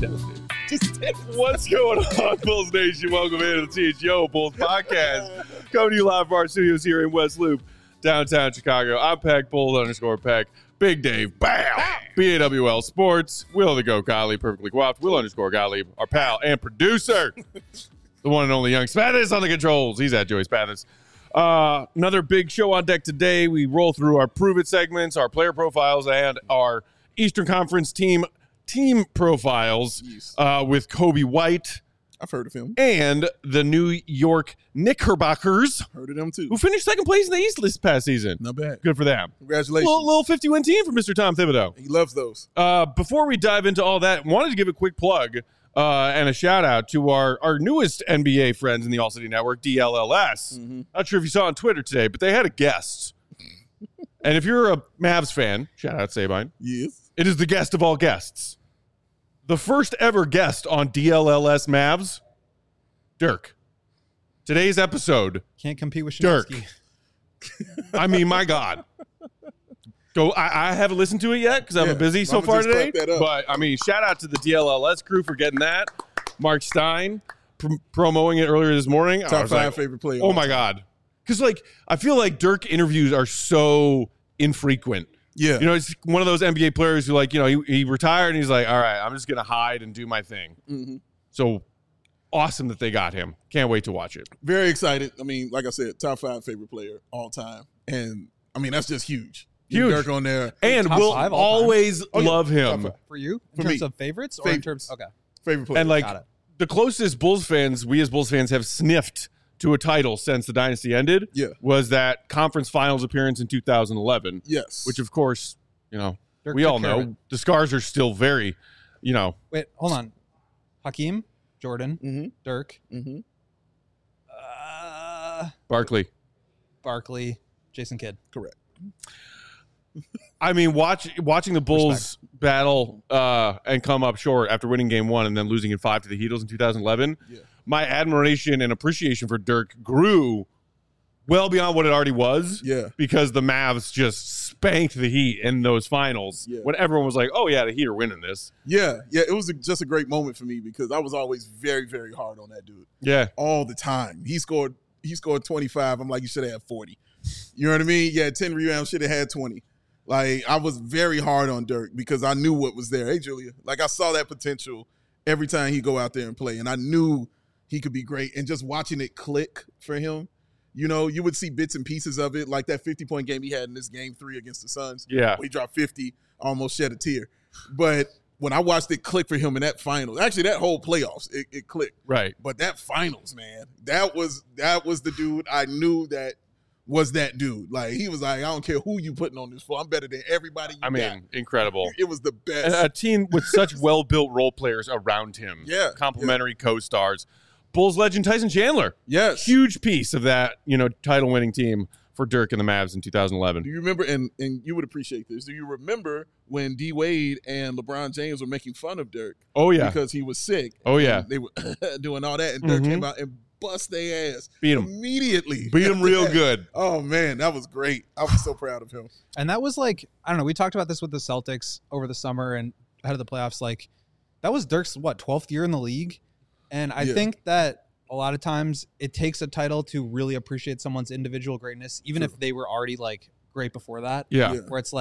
What's going on, Bulls Nation? Welcome into the THO Bulls podcast. Coming to you live from our studios here in West Loop, downtown Chicago. I'm Peck, Bulls_Peck. Big Dave, BAM! BAWL Sports, Will the Go Gottlieb, Perfectly Guapped, Will_Gottlieb, our pal and producer, the one and only Young Spathis on the controls. He's at Joey Spathis. Another big show on deck today. We roll through our Prove It segments, our player profiles, and our Eastern Conference team profiles with Kobe White. I've heard of him. And the New York Knickerbockers. Heard of them too. Who finished second place in the East this past season. Not bad. Good for them. Congratulations. Little 50-win team for Mr. Tom Thibodeau. He loves those. Before we dive into all that, wanted to give a quick plug and a shout out to our newest NBA friends in the All City Network, DLLS. Not sure if you saw on Twitter today, but they had a guest. And if you're a Mavs fan, shout out Sabine. Yes. It is the guest of all guests. The first ever guest on DLLS Mavs, Dirk. Today's episode. Can't compete with Dirk. Shinsky. I mean, my God. I haven't listened to it yet because I've been busy so far today. But, I mean, shout out to the DLLS crew for getting that. Mark Stein promoting it earlier this morning. Top 5 favorite player. Oh, my God. Because, I feel like Dirk interviews are so infrequent. Yeah. You know, it's one of those NBA players who, he retired and he's like, all right, I'm just going to hide and do my thing. Mm-hmm. So awesome that they got him. Can't wait to watch it. Very excited. I mean, like I said, top 5 favorite player all time. And, I mean, that's just huge. Huge. Dirk on there. And we'll always love him. For you? For In terms me. of favorites? Or in terms okay. Favorite player. And, the closest Bulls fans, we as Bulls fans have sniffed to a title since the dynasty ended was that conference finals appearance in 2011. Yes. Which, of course, Dirk we all know the scars are still very, Wait, hold on. Hakeem, Jordan, Dirk, Barkley, Jason Kidd. Correct. I mean, watching the Bulls battle and come up short after winning game 1 and then losing in 5 to the Heatles in 2011, my admiration and appreciation for Dirk grew well beyond what it already was. Yeah. Because the Mavs just spanked the Heat in those finals when everyone was like, oh, yeah, the Heat are winning this. Yeah. Yeah. It was just a great moment for me because I was always very, very hard on that dude. Yeah. All the time. He scored 25. I'm like, you should have had 40. You know what I mean? Yeah, 10 rebounds, should have had 20. I was very hard on Dirk because I knew what was there. Hey, Julia. I saw that potential every time he go out there and play, and I knew he could be great. And just watching it click for him, you would see bits and pieces of it, like that 50-point game he had in this game 3 against the Suns. Yeah. Where he dropped 50, almost shed a tear. But when I watched it click for him in that finals, actually that whole playoffs, it clicked. Right. But that finals, man, that was the dude I knew that was that dude. He was like, I don't care who you putting on this floor. I'm better than everybody you got. Incredible. It was the best. And a team with such well-built role players around him. Yeah. Complimentary co-stars. Bulls legend Tyson Chandler. Yes. Huge piece of that, title-winning team for Dirk and the Mavs in 2011. Do you remember, and you would appreciate this, do you remember when D. Wade and LeBron James were making fun of Dirk? Oh, yeah. Because he was sick. Oh, yeah. They were doing all that, and Dirk came out and bust their ass. Beat him. Immediately. Beat him real good. Oh, man, that was great. I was so proud of him. And that was I don't know, we talked about this with the Celtics over the summer and ahead of the playoffs. That was Dirk's, 12th year in the league? And I think that a lot of times it takes a title to really appreciate someone's individual greatness, even if they were already, great before that. Yeah. Where it's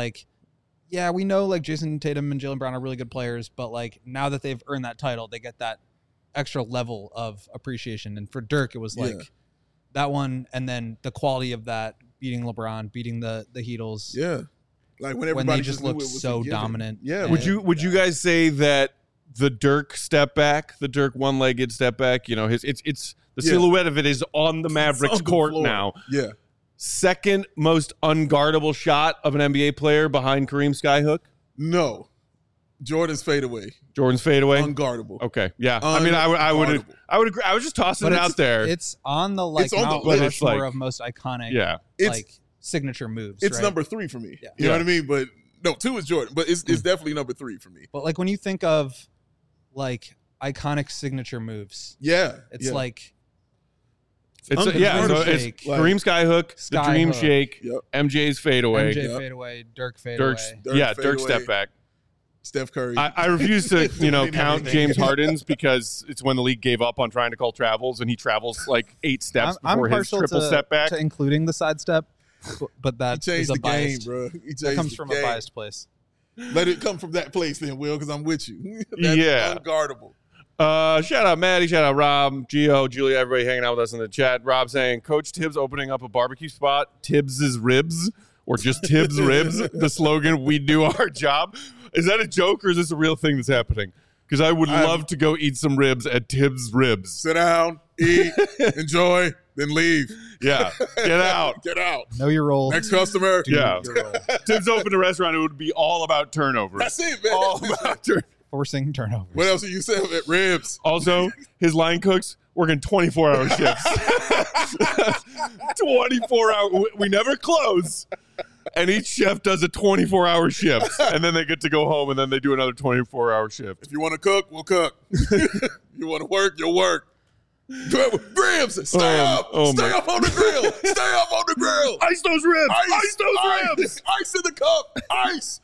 we know, Jason Tatum and Jaylen Brown are really good players, but, now that they've earned that title, they get that extra level of appreciation. And for Dirk, it was that one, and then the quality of that, beating LeBron, beating the Heatles. Yeah. When everybody when they just looked so dominant. Yeah. Would you guys say that the Dirk step back, the Dirk one-legged step back, it's the silhouette of it is on the Mavericks court now. Yeah. Second most unguardable shot of an NBA player behind Kareem Skyhook? No. Jordan's fadeaway. Unguardable. Okay. Yeah. I mean, I would agree. I was just tossing it out there. It's on the It's on Mount the list. Rushmore of most iconic signature moves. It's right? number 3 for me. Yeah. You know what I mean? But no, 2 is Jordan, but it's definitely number 3 for me. But when you think of iconic signature moves, it's It's Kareem Skyhook, the Dream Shake, MJ's fadeaway, MJ fadeaway, Dirk fadeaway. Dirk step back. Steph Curry. I refuse to, Doing count everything. James Harden's because it's when the league gave up on trying to call travels, and he travels like 8 steps I'm before his partial triple step back. to including the sidestep, but He that changed is a the game, biased. bro. He changed That comes the from game. a biased place. Let it come from that place then, Will, because I'm with you. That's Yeah. unguardable. Shout out Maddie, shout out Rob, Gio, Julia, everybody hanging out with us in the chat. Rob saying, Coach Tibbs opening up a barbecue spot, Tibbs' Ribs, or just Tibbs' Ribs, the slogan, we do our job. Is that a joke or is this a real thing that's happening? Because I would love to go eat some ribs at Tibbs' Ribs. Sit down, eat, enjoy, then leave. Yeah, get out. Get out. Know your role. Next customer. Yeah. Your role. Tibbs opened a restaurant, it would be all about turnovers. That's it, man. All about turnovers. Forcing turnovers. What else are you saying? Ribs. Also, his line cooks working 24-hour shifts. 24-hour. We never close. And each chef does a 24-hour shift. And then they get to go home, and then they do another 24-hour shift. If you want to cook, we'll cook. You want to work, you'll work. Ribs, stay up. Stay up on the grill. Stay up on the grill. Ice those ribs. Ice those ribs. Ice in the cup. Ice.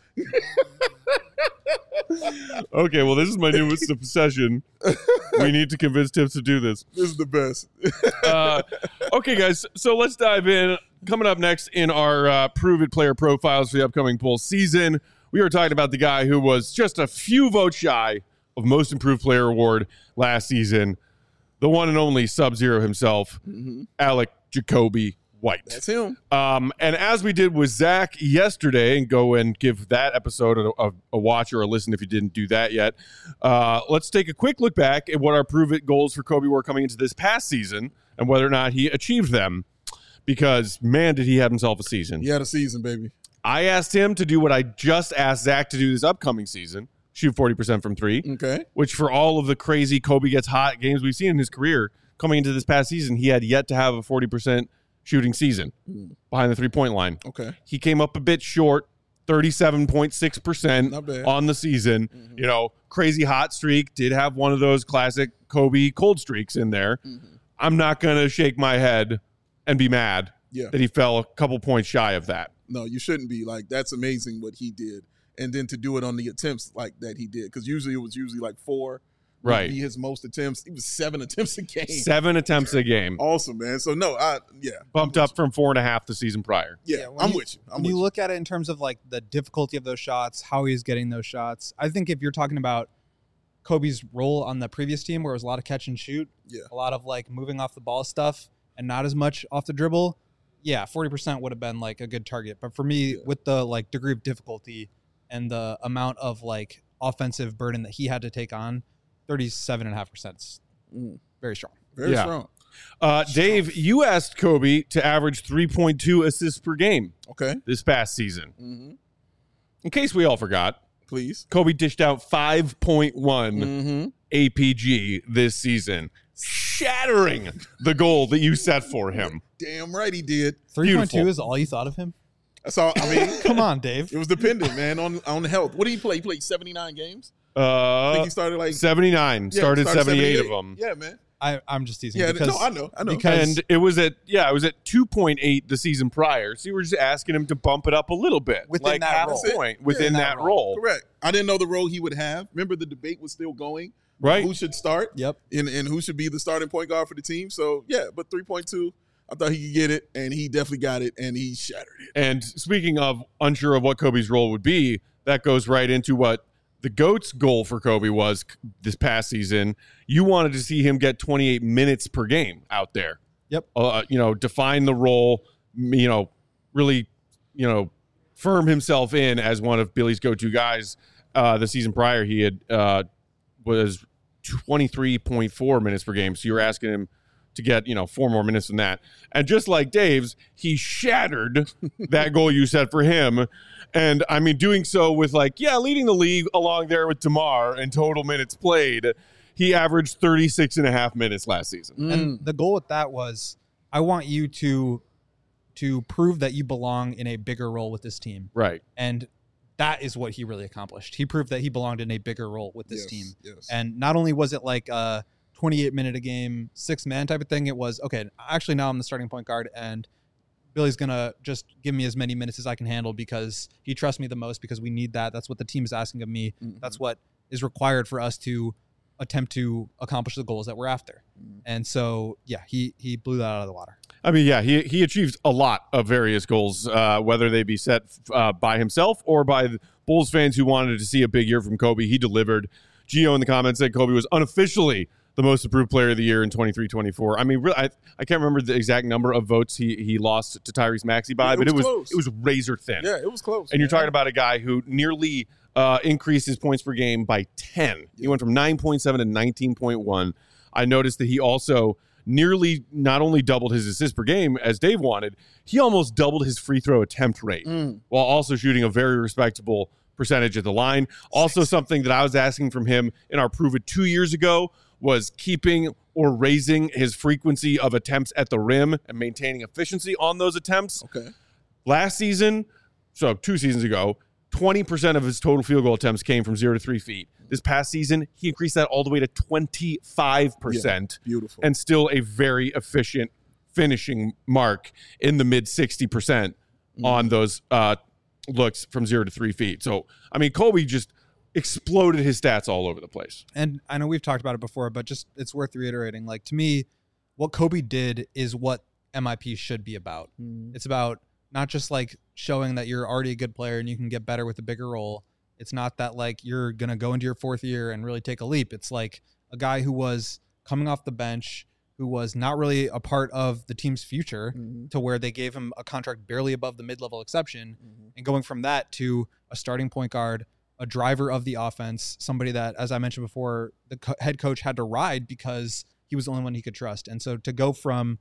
Okay, well, this is my newest obsession. We need to convince Tibbs to do this. This is the best. Okay, guys, so let's dive in. Coming up next in our Prove It player profiles for the upcoming Bulls season, we are talking about the guy who was just a few votes shy of Most Improved Player award last season, the one and only Sub-Zero himself, Alec Jacoby White. That's him. And as we did with Zach yesterday, and go and give that episode a watch or a listen if you didn't do that yet, let's take a quick look back at what our Prove It goals for Kobe were coming into this past season and whether or not he achieved them. Because, man, did he have himself a season. He had a season, baby. I asked him to do what I just asked Zach to do this upcoming season, shoot 40% from three, Okay. which for all of the crazy Kobe gets hot games we've seen in his career, coming into this past season, he had yet to have a 40% shooting season behind the three-point line. Okay. He came up a bit short, 37.6% Not bad. on the season. You know, crazy hot streak, did have one of those classic Kobe cold streaks in there. I'm not going to shake my head and be mad that he fell a couple points shy of that. No, you shouldn't be. Like, that's amazing what he did. And then to do it on the attempts like that he did. Because usually it was like 4. Right. Would be his most attempts. He was 7 attempts a game. 7 attempts a game. Awesome, man. So, no, Bumped up from 4.5 the season prior. Yeah, when I'm with you. When you look at it in terms of like the difficulty of those shots, how he's getting those shots, I think if you're talking about Kobe's role on the previous team where it was a lot of catch and shoot, a lot of like moving off the ball stuff and not as much off the dribble, 40% would have been like a good target. But for me, with the like degree of difficulty and the amount of like offensive burden that he had to take on, 37.5% is very strong. Very strong. Dave, you asked Kobe to average 3.2 assists per game this past season. In case we all forgot, please, Kobe dished out 5.1 APG this season, shattering the goal that you set for him. Damn right he did. 3.2 is all you thought of him? That's all. I mean, come on, Dave. It was dependent, man, on health. What did he play? He played 79 games. I think he started like 79. Started 78 of them. Yeah, man. I'm just teasing. Yeah, because, no, I know. And it was at 2.8 the season prior. So you were just asking him to bump it up a little bit, within like that half role. a point within that role. Correct. I didn't know the role he would have. Remember, the debate was still going. Right. Who should start? Yep. And who should be the starting point guard for the team? So but 3.2, I thought he could get it, and he definitely got it, and he shattered it. And speaking of unsure of what Kobe's role would be, that goes right into what the GOAT's goal for Kobe was this past season. You wanted to see him get 28 minutes per game out there. Yep. Define the role, really, firm himself in as one of Billy's go-to guys. The season prior, he had was 23.4 minutes per game. So you're asking him to get, 4 more minutes than that. And just like Dave's, he shattered that goal you set for him. And I mean, doing so with leading the league along there with DeMar in total minutes played. He averaged 36.5 minutes last season. And the goal with that was, I want you to prove that you belong in a bigger role with this team. Right. And that is what he really accomplished. He proved that he belonged in a bigger role with this team. Yes. And not only was it like a 28-minute a game, 6-man type of thing, it was, okay, actually now I'm the starting point guard, and Billy's going to just give me as many minutes as I can handle because he trusts me the most, because we need that. That's what the team is asking of me. Mm-hmm. That's what is required for us to attempt to accomplish the goals that we're after. Mm-hmm. And so, yeah, he blew that out of the water. I mean, yeah, he achieved a lot of various goals, whether they be set by himself or by the Bulls fans who wanted to see a big year from Kobe. He delivered. Gio in the comments said Kobe was unofficially the most improved player of the year in 23-24. I mean, really, I can't remember the exact number of votes he lost to Tyrese Maxey by, but it was razor thin. Yeah, it was close. And you're talking about a guy who nearly increased his points per game by 10. He went from 9.7 to 19.1. I noticed that he also nearly not only doubled his assists per game, as Dave wanted, he almost doubled his free throw attempt rate while also shooting a very respectable percentage at the line. Also, something that I was asking from him in our Prove It 2 years ago was keeping or raising his frequency of attempts at the rim and maintaining efficiency on those attempts. Okay. Last season, so 2 seasons ago, 20% of his total field goal attempts came from 0 to 3 feet. This past season, he increased that all the way to 25%. Yeah, beautiful. And still a very efficient finishing mark in the mid 60% on those looks from 0 to 3 feet. So, I mean, Kobe just exploded his stats all over the place. And I know we've talked about it before, but just it's worth reiterating. Like, to me, what Kobe did is what MIP should be about. It's about not just like showing that you're already a good player and you can get better with a bigger role. It's not that like you're going to go into your 4th year and really take a leap. It's like a guy who was coming off the bench, who was not really a part of the team's future, to where they gave him a contract barely above the mid-level exception, and going from that to a starting point guard, a driver of the offense, somebody that, as I mentioned before, the head coach had to ride because he was the only one he could trust. And so to go from,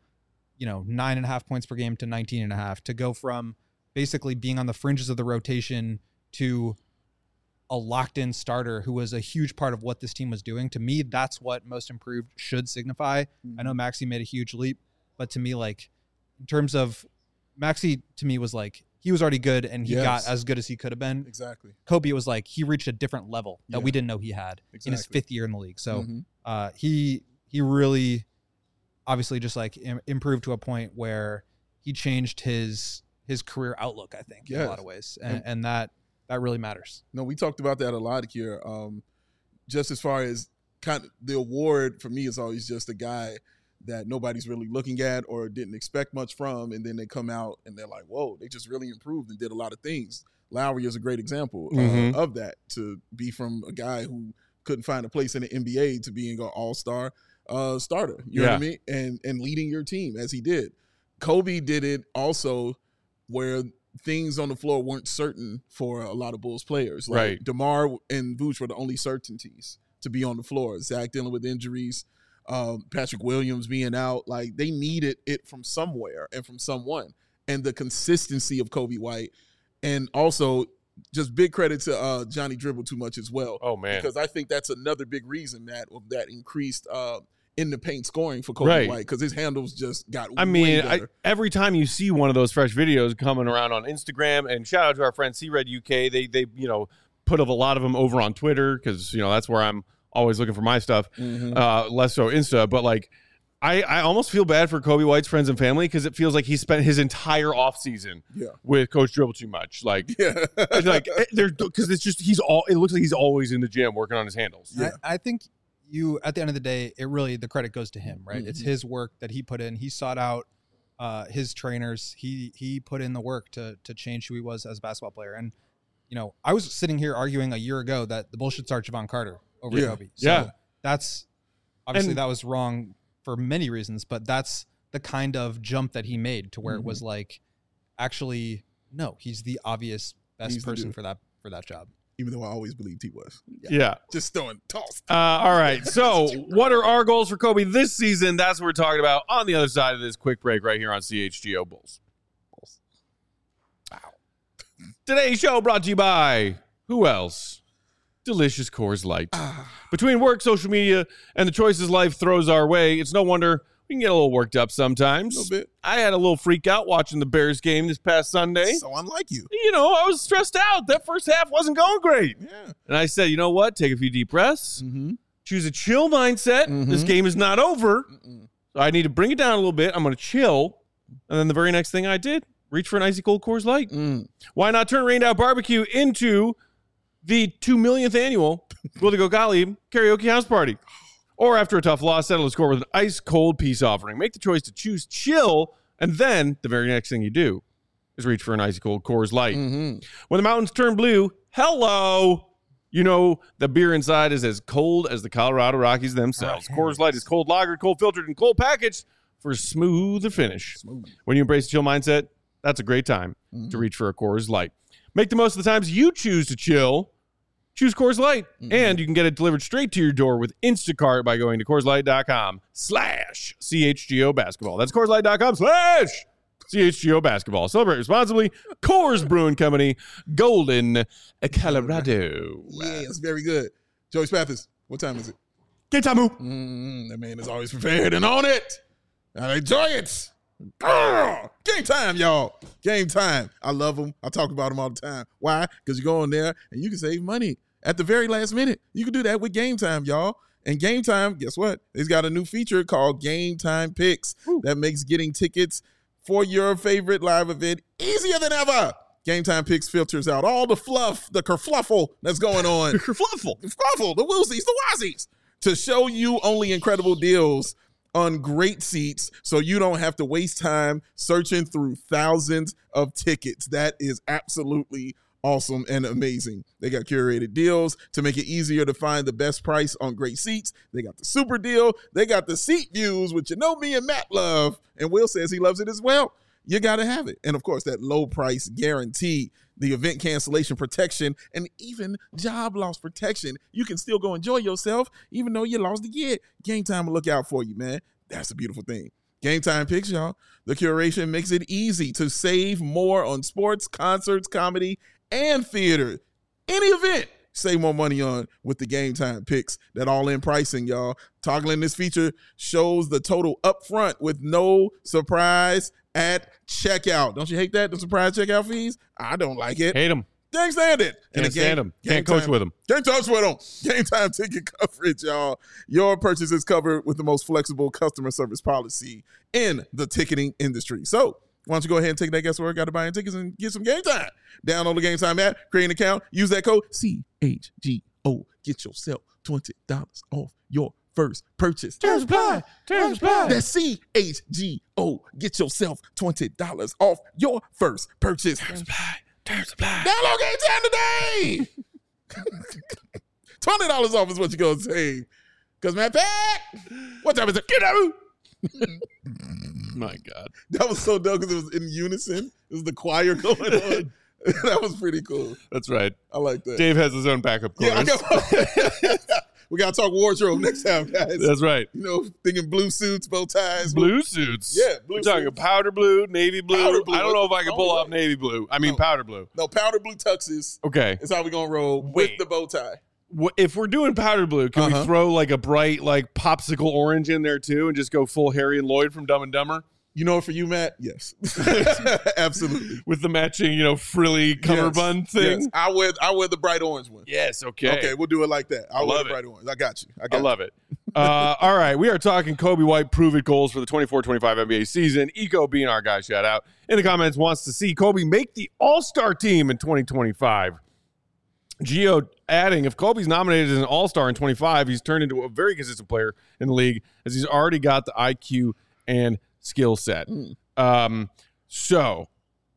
9.5 points per game to 19.5, to go from basically being on the fringes of the rotation to a locked-in starter who was a huge part of what this team was doing. To me, that's what most improved should signify. I know Maxey made a huge leap, but to me, like, in terms of Maxey, to me was like, he was already good and he got as good as he could have been. Exactly. Kobe was like, he reached a different level that we didn't know he had in his 5th year in the league. So he really obviously just like improved to a point where he changed his career outlook, I think, in a lot of ways. And that really matters. No, we talked about that a lot here. Just as far as kind of the award for me is always just a guy that nobody's really looking at or didn't expect much from, and then they come out and they're like, whoa, they just really improved and did a lot of things. Lowry is a great example of that, to be from a guy who couldn't find a place in the NBA to being an all-star starter, you know what I mean? And leading your team as he did. Kobe did it also where things on the floor weren't certain for a lot of Bulls players. Like DeMar and Vooch were the only certainties to be on the floor. Zach dealing with injuries, Patrick Williams being out. Like, they needed it from somewhere and from someone. And the consistency of Kobe White, and also just big credit to Johnny Dribble Too Much as well. Oh, man. Because I think that's another big reason that increased in the paint scoring for Kobe White, because his handles just got way better. Every time you see one of those fresh videos coming around on Instagram, and shout out to our friend C-Red UK, they put up a lot of them over on Twitter, because that's where I'm always looking for my stuff, less so Insta. But like, I almost feel bad for Kobe White's friends and family, because it feels like he spent his entire offseason with Coach Dribble Too Much. Like, because it's just it looks like he's always in the gym working on his handles. Yeah. I think at the end of the day, the credit goes to him, right? It's his work that he put in. He sought out his trainers. He put in the work to change who he was as a basketball player. And, I was sitting here arguing a year ago that the Bulls should start Javon Carter over Kobe. So that's obviously that was wrong for many reasons, but that's the kind of jump that he made to where it was like, actually, no, he's the obvious best person for that job. Even though I always believed he was. Yeah. Just throwing toss. All right. So what are our goals for Kobe this season? That's what we're talking about on the other side of this quick break right here on CHGO Bulls. Wow. Today's show brought to you by who else? Delicious Coors Light. Between work, social media, and the choices life throws our way, it's no wonder we can get a little worked up sometimes. A little bit. I had a little freak out watching the Bears game this past Sunday. So unlike you. I was stressed out. That first half wasn't going great. Yeah. And I said, you know what? Take a few deep breaths. Choose a chill mindset. This game is not over. So I need to bring it down a little bit. I'm going to chill. And then the very next thing I did, reach for an icy cold Coors Light. Why not turn Rain Down Barbecue into the 2 millionth annual Will to Go Golly karaoke house party? Or after a tough loss, settle the score with an ice cold peace offering. Make the choice to choose chill, and then the very next thing you do is reach for an icy cold Coors Light. When the mountains turn blue, hello, you know the beer inside is as cold as the Colorado Rockies themselves. Coors Light is cold lagered, cold filtered, and cold packaged for a smoother finish. When you embrace a chill mindset, that's a great time to reach for a Coors Light. Make the most of the times you choose to chill. Choose Coors Light, and you can get it delivered straight to your door with Instacart by going to CoorsLight.com/CHGO basketball. That's CoorsLight.com/CHGO basketball. Celebrate responsibly. Coors Brewing Company, Golden, Colorado. Yeah, it's very good. Joey Spathis, what time is it? Get time. That man is always prepared and on it. I enjoy it. Game time, y'all. Game time. I love them. I talk about them all the time. Why? Because you go in there and you can save money at the very last minute. You can do that with Game Time, y'all. And Game Time, guess what? It's got a new feature called Game Time Picks that makes getting tickets for your favorite live event easier than ever. Game Time Picks filters out all the fluff, the kerfluffle that's going on. The kerfluffle. The woosies, the wazies, to show you only incredible deals on great seats so you don't have to waste time searching through thousands of tickets. That is absolutely awesome and amazing. They got curated deals to make it easier to find the best price on great seats. They got the super deal. They got the seat views, which you know me and Matt love, and Will says he loves it as well. You got to have it. And, of course, that low price guarantee, the event cancellation protection, and even job loss protection. You can still go enjoy yourself even though you lost the gig. Game Time will look out for you, man. That's a beautiful thing. Game Time Picks, y'all. The curation makes it easy to save more on sports, concerts, comedy, and theater. Any event, save more money on with the Game Time Picks. That all-in pricing, y'all. Toggling this feature shows the total up front with no surprise at checkout. Don't you hate that? The surprise checkout fees? I don't like it. Hate them. Can't stand it. Can't stand them. Can't coach with them. Can't touch with them. Game Time ticket coverage, y'all. Your purchase is covered with the most flexible customer service policy in the ticketing industry. So why don't you go ahead and take that guesswork out of buying tickets and get some Game Time. Download the Game Time app, create an account, use that code CHGO. Get yourself $20 off your first purchase. Terms apply. Terms apply. That's CHGO. Get yourself $20 off your first purchase. Terms apply. Terms apply. Download Game Time today. $20 off is what you're going to save. Because, man, Pat, what time is it? Get out. My God. That was so dope because it was in unison. It was the choir going on. That was pretty cool. That's right. I like that. Dave has his own backup chorus. Yeah, we got to talk wardrobe next time, guys. That's right. You know, thinking blue suits, bow ties. Blue suits. Yeah, blue We're talking suits. powder blue, navy blue. Powder blue. I don't know if I can pull off navy blue. I mean powder blue. No, powder blue tuxes. Okay. Is how we're going to roll with the bow tie. If we're doing powder blue, can we throw like a bright like popsicle orange in there too and just go full Harry and Lloyd from Dumb and Dumber? You know, for you, Matt, yes. Absolutely. With the matching, frilly cummerbund thing? Yes. I wear the bright orange one. Yes, okay. Okay, we'll do it like that. I'll wear love the it. bright orange. I got you. I love it. All right, we are talking Kobe White prove-it goals for the 24-25 NBA season. Eco being our guy, shout out. In the comments, wants to see Kobe make the All-Star team in 2025. Gio adding, if Kobe's nominated as an All-Star in 25, he's turned into a very consistent player in the league as he's already got the IQ and skill set. So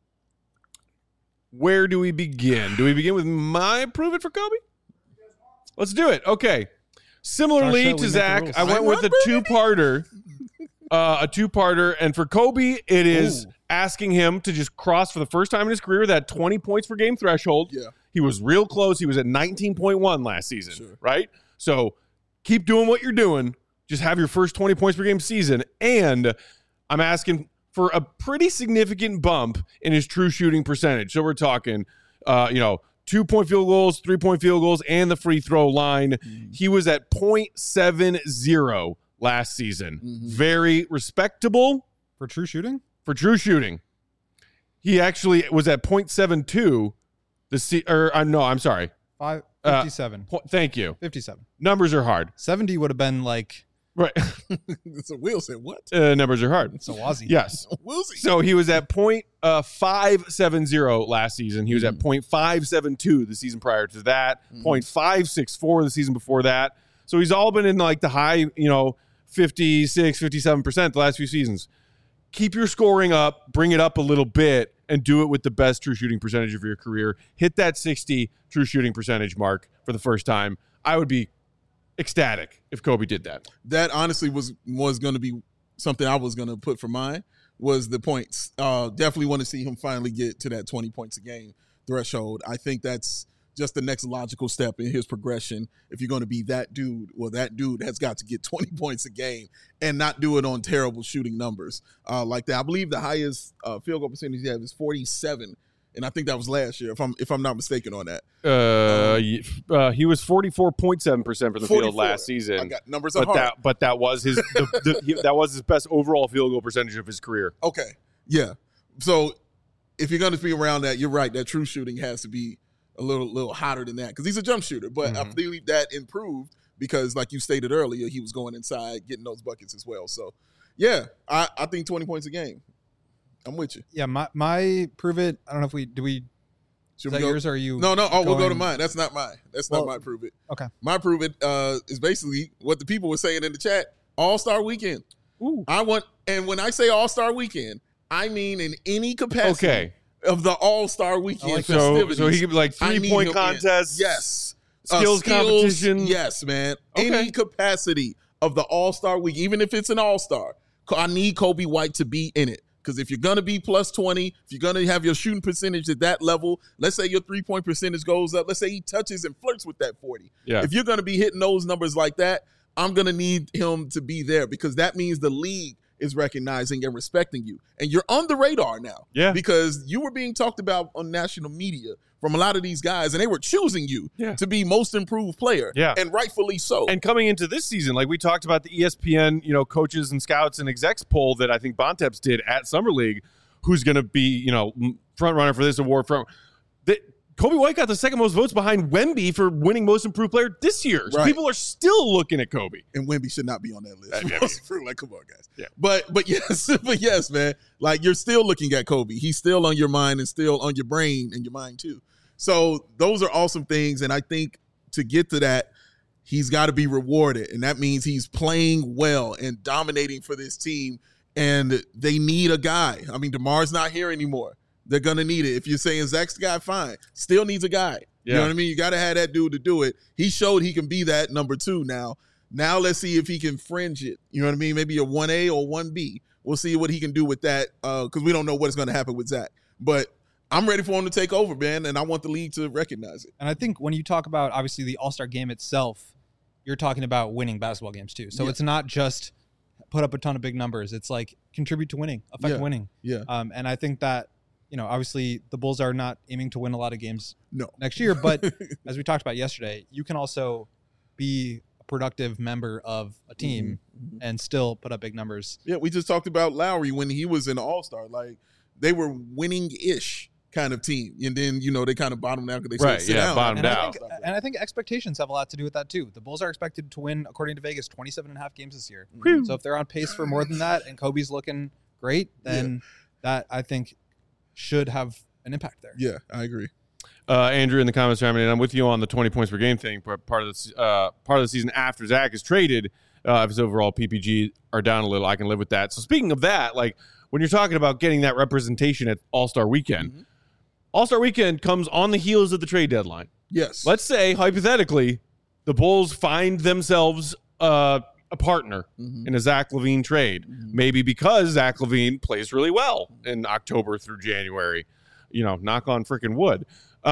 where do we begin? Do we begin with my prove it for Kobe? Let's do it. Okay. Similarly to Zach, I went with a two-parter. And for Kobe, it is asking him to just cross for the first time in his career that 20 points per game threshold. Yeah. He was real close. He was at 19.1 last season, right? So keep doing what you're doing. Just have your first 20 points per game season. And I'm asking for a pretty significant bump in his true shooting percentage. So we're talking, 2-point field goals, 3-point field goals, and the free throw line. He was at .70 last season. Very respectable. For true shooting? For true shooting. He actually was at .72. I'm sorry. 57. Thank you. 57. Numbers are hard. 70 would have been like Right. So Will said, what? Numbers are hard. So Wazzy. Yes. Willsy. So he was at .570 last season. He was at .572 the season prior to that, .564 the season before that. So he's all been in like the high, 56, 57% the last few seasons. Keep your scoring up, bring it up a little bit, and do it with the best true shooting percentage of your career. Hit that 60 true shooting percentage mark for the first time. I would be ecstatic if Kobe did that. That honestly was going to be something I was going to put for mine, was the points. Definitely want to see him finally get to that 20 points a game threshold. I think that's just the next logical step in his progression. If you're going to be that dude, well, that dude has got to get 20 points a game and not do it on terrible shooting numbers like that. I believe the highest field goal percentage he has is 47, and I think that was last year, if I'm not mistaken on that. He was 44.7% for the field last season. I got numbers at heart. But that was his that was his best overall field goal percentage of his career. Okay, yeah. So if you're going to be around that, you're right. That true shooting has to be a little hotter than that because he's a jump shooter. But I believe that improved because, like you stated earlier, he was going inside, getting those buckets as well. So, yeah, I think 20 points a game. I'm with you. Yeah, my prove it. I don't know if we Should is that we go? yours or are you? No. Oh, we'll go to mine. That's not mine. Not my prove it. Okay. My prove it is basically what the people were saying in the chat. All-Star Weekend. Ooh. And when I say All-Star Weekend, I mean in any capacity of the All-Star Weekend festivities. So he could be like 3-point contests. Yes. Skills competition. Yes, man. Okay. Any capacity of the All-Star Week, even if it's an All-Star, I need Kobe White to be in it. Because if you're going to be plus 20, if you're going to have your shooting percentage at that level, let's say your 3-point percentage goes up. Let's say he touches and flirts with that 40. Yeah. If you're going to be hitting those numbers like that, I'm going to need him to be there because that means the league is recognizing and respecting you. And you're on the radar now. Yeah. Because you were being talked about on national media from a lot of these guys, and they were choosing you to be most improved player. Yeah. And rightfully so. And coming into this season, like we talked about the ESPN, coaches and scouts and execs poll that I think Bontemps did at Summer League, who's going to be, front runner for this award. Kobe White got the second most votes behind Wemby for winning most improved player this year. So people are still looking at Kobe. And Wemby should not be on that list. Like, come on, guys. Yeah. But yes, man. Like, you're still looking at Kobe. He's still on your mind and still on your brain and your mind too. So those are awesome things. And I think to get to that, he's got to be rewarded. And that means he's playing well and dominating for this team. And they need a guy. I mean, DeMar's not here anymore. They're going to need it. If you're saying Zach's the guy, fine. Still needs a guy. You know what I mean? You got to have that dude to do it. He showed he can be that number 2 now. Now let's see if he can fringe it. You know what I mean? Maybe a 1A or 1B. We'll see what he can do with that because we don't know what's going to happen with Zach. But I'm ready for him to take over, man, and I want the league to recognize it. And I think when you talk about, obviously, the All-Star game itself, you're talking about winning basketball games too. So it's not just put up a ton of big numbers. It's like contribute to winning, affect winning. Yeah. And I think that, obviously the Bulls are not aiming to win a lot of games next year. But as we talked about yesterday, you can also be a productive member of a team and still put up big numbers. Yeah, we just talked about Lowry when he was an All-Star. Like, they were winning-ish kind of team. And then, they kind of bottomed out because they sit down. Bottomed out. And I think expectations have a lot to do with that too. The Bulls are expected to win, according to Vegas, 27.5 games this year. So if they're on pace for more than that and Kobe's looking great, then that, I think, should have an impact there. Yeah, I agree. Andrew in the comments chiming in. I'm with you on the 20 points per game thing. Part of the season after Zach is traded, if his overall PPG are down a little, I can live with that. So speaking of that, like when you're talking about getting that representation at All-Star Weekend, All-Star Weekend comes on the heels of the trade deadline. Yes. Let's say, hypothetically, the Bulls find themselves a partner in a Zach LaVine trade. Maybe because Zach LaVine plays really well in October through January. Knock on freaking wood.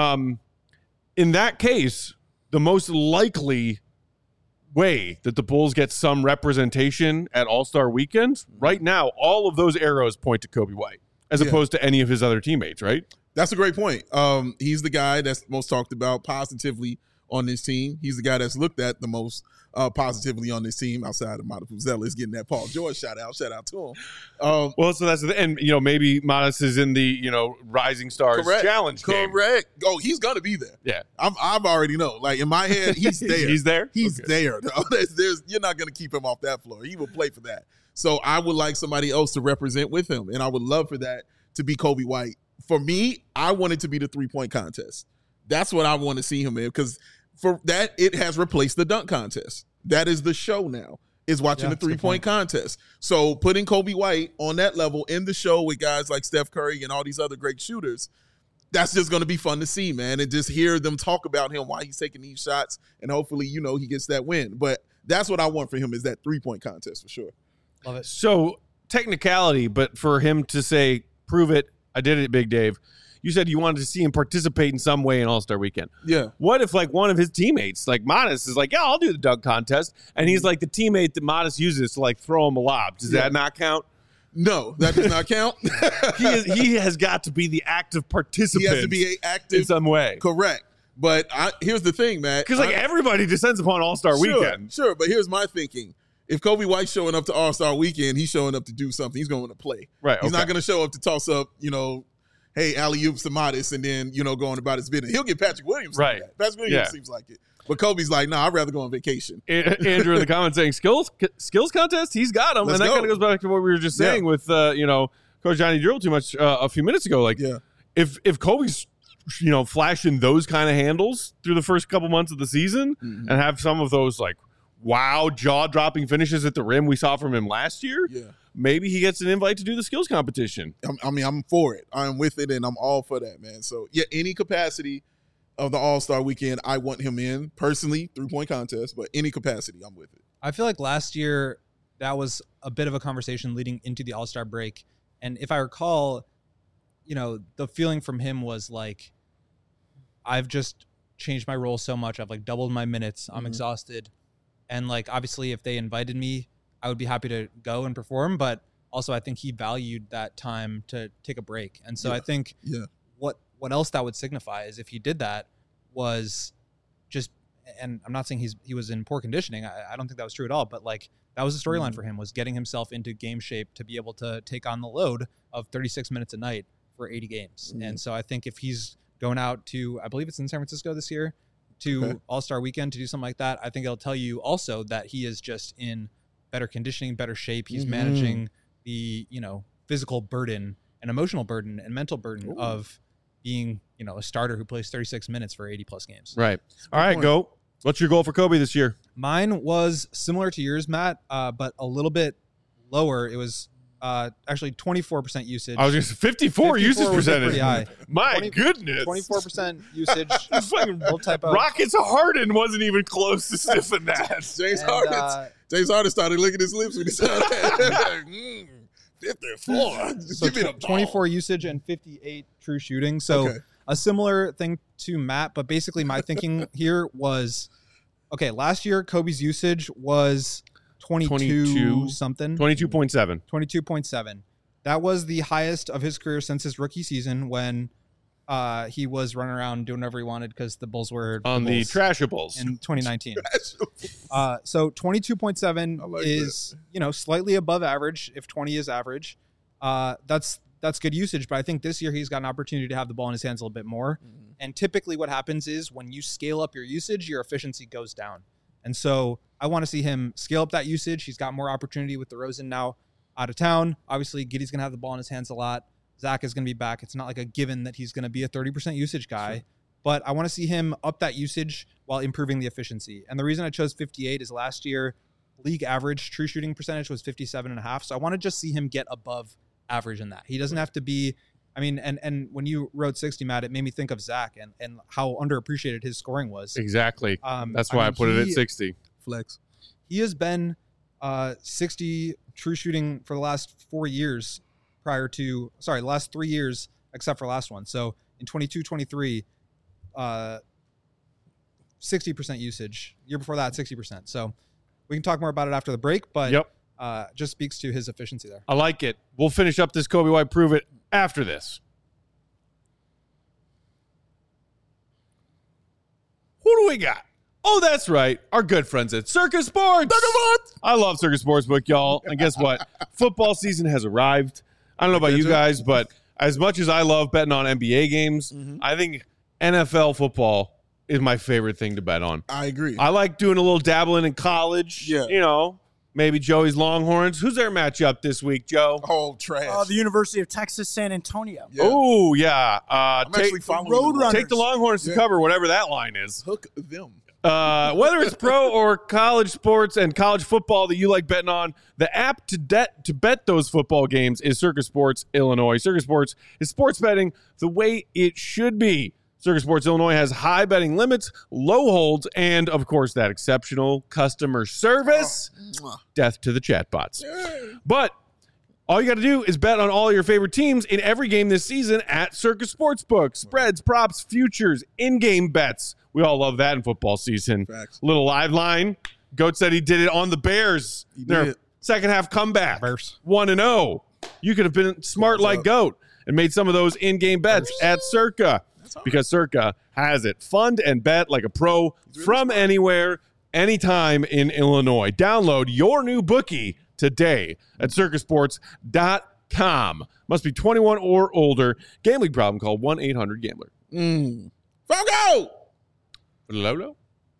In that case, the most likely way that the Bulls get some representation at All-Star Weekend, right now, all of those arrows point to Kobe White, as opposed to any of his other teammates, right? That's a great point. He's the guy that's most talked about positively on this team. He's the guy that's looked at the most positively on this team outside of Modest Zealous getting that Paul George shout out to him. Well, so that's and maybe Modest is in the Rising Stars Challenge game. Correct. Oh, he's gonna be there. Yeah, I've already know. Like in my head, he's there. He's there. He's there. You're not gonna keep him off that floor. He will play for that. So I would like somebody else to represent with him, and I would love for that to be Coby White. For me, I want it to be the 3-point contest. That's what I want to see him in, because for that, it has replaced the dunk contest. That is the show now, is watching the 3-point contest. So putting Coby White on that level in the show with guys like Steph Curry and all these other great shooters, that's just going to be fun to see, man, and just hear them talk about him, why he's taking these shots, and hopefully, he gets that win. But that's what I want for him, is that 3-point contest for sure. Love it. So technicality, but for him to say, prove it, I did it, Big Dave. You said you wanted to see him participate in some way in All-Star Weekend. Yeah. What if one of his teammates, like Modest, is like, yeah, I'll do the dunk contest, and he's like the teammate that Modest uses to throw him a lob? Does that not count? No, that does not count. He has got to be the active participant. He has to be active in some way. Correct. But here's the thing, Matt. Because everybody descends upon All-Star Weekend. Sure, but here's my thinking. If Coby White's showing up to All-Star Weekend, he's showing up to do something. He's going to play. Right. He's not going to show up to toss up, hey, alley-oops to Modest, and then, going about his business. He'll get Patrick Williams. Right. Patrick Williams seems like it. But Kobe's like, nah, I'd rather go on vacation. Andrew in the comments saying skills contest, he's got him. And that kind of goes back to what we were just saying with, Coach Johnny Drill too much a few minutes ago. If Kobe's, flashing those kind of handles through the first couple months of the season and have some of those, wow, jaw-dropping finishes at the rim we saw from him last year, maybe he gets an invite to do the skills competition. I'm for it. I'm with it, and I'm all for that, man. So, any capacity of the All-Star Weekend, I want him in. Personally, 3-point contest, but any capacity, I'm with it. I feel like last year, that was a bit of a conversation leading into the All-Star break. And if I recall, the feeling from him was I've just changed my role so much. I've doubled my minutes. I'm exhausted. And obviously if they invited me, I would be happy to go and perform. But also I think he valued that time to take a break. And so I think what else that would signify is if he did that was just, and I'm not saying he was in poor conditioning. I don't think that was true at all. But that was the storyline for him, was getting himself into game shape to be able to take on the load of 36 minutes a night for 80 games. And so I think if he's going out to, I believe it's in San Francisco this year, to All-Star Weekend to do something like that, I think it'll tell you also that he is just in better conditioning, better shape. He's managing the, physical burden and emotional burden and mental burden of being, a starter who plays 36 minutes for 80 plus games. Right. All right, go. What's your goal for Kobe this year? Mine was similar to yours, Matt, but a little bit lower. It was actually 24% usage. I was just 54 usage percentage. My goodness. 24% usage. Rockets Harden wasn't even close to sniffing that. James Harden started licking his lips when he said that. 54. So 24 usage and 58 true shooting. So a similar thing to Matt, but basically my thinking here was, last year Kobe's usage was 22 something. 22.7. 22.7. That was the highest of his career since his rookie season, when he was running around doing whatever he wanted because the Bulls were on the Trashables in 2019. So 22.7 is slightly above average. If 20 is average, that's good usage. But I think this year he's got an opportunity to have the ball in his hands a little bit more. And typically what happens is when you scale up your usage, your efficiency goes down. And so I want to see him scale up that usage. He's got more opportunity with DeRozan now out of town. Obviously, Giddey's going to have the ball in his hands a lot. Zach is going to be back. It's not like a given that he's going to be a 30% usage guy. But I want to see him up that usage while improving the efficiency. And the reason I chose 58 is last year, league average true shooting percentage was 57.5. So I want to just see him get above average in that. He doesn't have to be, and when you wrote 60, Matt, it made me think of Zach and how underappreciated his scoring was. Exactly. That's why I put it at 60. Flex. He has been 60 true shooting for the last 4 years the last 3 years, except for last one. So in 22-23, 60% usage. Year before that, 60%. So we can talk more about it after the break, but just speaks to his efficiency there. I like it. We'll finish up this Coby White Prove It after this. Who do we got? Oh, that's right. Our good friends at Circus Sports. I love Circus Sportsbook, y'all. And guess what? Football season has arrived. I don't know about you guys, but as much as I love betting on NBA games, I think NFL football is my favorite thing to bet on. I agree. I like doing a little dabbling in college. Yeah. You know, maybe Joey's Longhorns. Who's their matchup this week, Joe? Oh, trash. The University of Texas, San Antonio. Yeah. Oh, yeah. I'm actually following Roadrunners. Take the Longhorns to cover whatever that line is. Hook them. Whether it's pro or college sports and college football that you like betting on, the app to bet those football games is Circus Sports Illinois. Circus Sports is sports betting the way it should be. Circus Sports Illinois has high betting limits, low holds, and, of course, that exceptional customer service. Death to the chatbots. But all you got to do is bet on all your favorite teams in every game this season at Circus Sportsbook. Spreads, props, futures, in-game bets. We all love that in football season. Facts. Little live line. Goat said he did it on the Bears. He Their did. second half comeback. Bears. 1-0. You could have been smart like Goat and made some of those in-game bets at Circa. Because Circa has it. Fund and bet like a pro from anywhere, anytime in Illinois. Download your new bookie today at circusports.com. Must be 21 or older. Gambling problem, call 1-800-GAMBLER. Fogo! Lolo?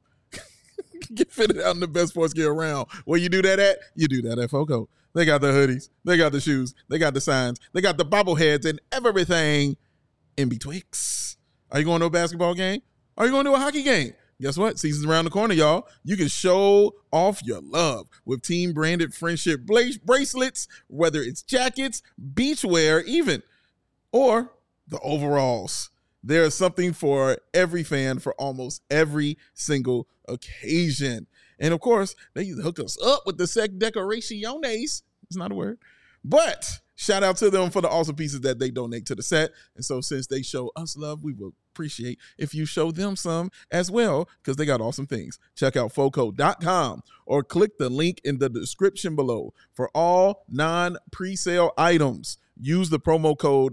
Get fitted out in the best sports gear around. Where you do that at? You do that at Foco. They got the hoodies. They got the shoes. They got the signs. They got the bobbleheads and everything in betwixt. Are you going to a basketball game? Are you going to a hockey game? Guess what? Season's around the corner, y'all. You can show off your love with team-branded friendship bracelets, whether it's jackets, beachwear even, or the overalls. There's something for every fan for almost every single occasion. And, of course, they hook us up with the Sec Decoraciones. It's not a word. But shout out to them for the awesome pieces that they donate to the set. And so since they show us love, we will appreciate if you show them some as well, because they got awesome things. Check out foco.com or click the link in the description below for all non-presale items. Use the promo code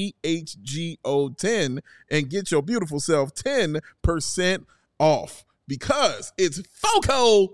CHGO10 and get your beautiful self 10% off, because it's Foco.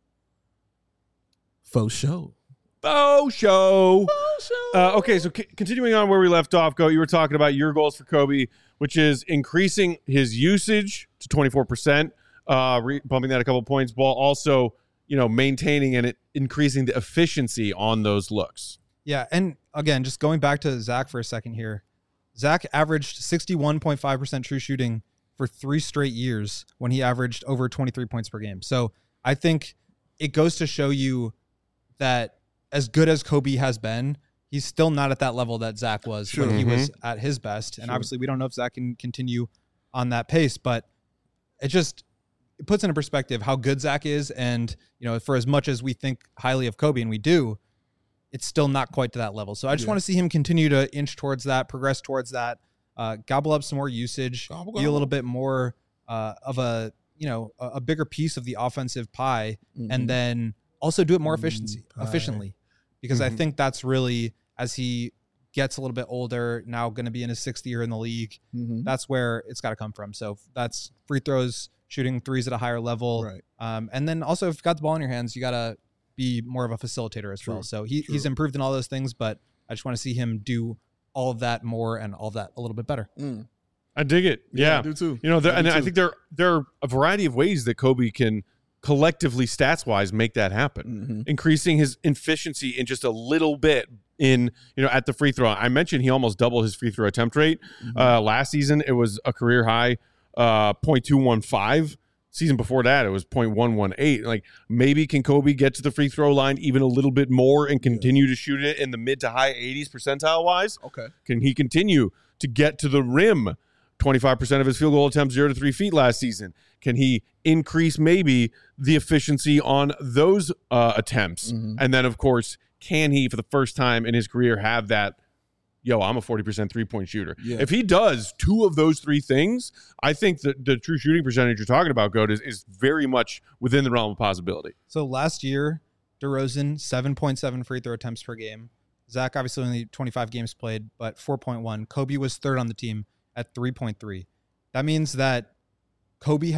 Faux show. Faux show. Okay, so continuing on where we left off, Go, you were talking about your goals for Kobe, which is increasing his usage to 24%, bumping that a couple points, while also, maintaining and increasing the efficiency on those looks. Yeah, and again, just going back to Zach for a second here, Zach averaged 61.5% true shooting for 3 straight years when he averaged over 23 points per game. So I think it goes to show you that as good as Kobe has been, he's still not at that level that Zach was when he was at his best. And obviously we don't know if Zach can continue on that pace, but it puts into perspective how good Zach is. And, for as much as we think highly of Kobe, and we do, it's still not quite to that level. So I just want to see him continue to inch towards that, progress towards that, gobble up some more usage, be a little bit more of a bigger piece of the offensive pie, and then also do it more efficiently. Because I think that's really, as he gets a little bit older, now going to be in his 6th year in the league, that's where it's got to come from. So that's free throws, shooting threes at a higher level. Right. And then also, if you've got the ball in your hands, you got to be more of a facilitator as well. So he's improved in all those things, but I just want to see him do all of that more and all of that a little bit better. I dig it. Yeah. I do too. I think there are a variety of ways that Kobe can collectively, stats-wise, make that happen. Increasing his efficiency in just a little bit at the free throw. I mentioned he almost doubled his free throw attempt rate. Last season, it was a career high 0.215. Season before that, it was 0.118. Like, maybe can Kobe get to the free throw line even a little bit more and continue to shoot it in the mid to high 80s percentile-wise? Okay. Can he continue to get to the rim? 25% of his field goal attempts 0 to 3 feet last season. Can he increase maybe the efficiency on those attempts? And then, of course, can he, for the first time in his career, have that, I'm a 40% three-point shooter? Yeah. If he does 2 of those 3 things, I think that the true shooting percentage you're talking about, Goat, is very much within the realm of possibility. So last year, DeRozan, 7.7 free throw attempts per game. Zach, obviously only 25 games played, but 4.1. Kobe was 3rd on the team at 3.3. That means that Kobe had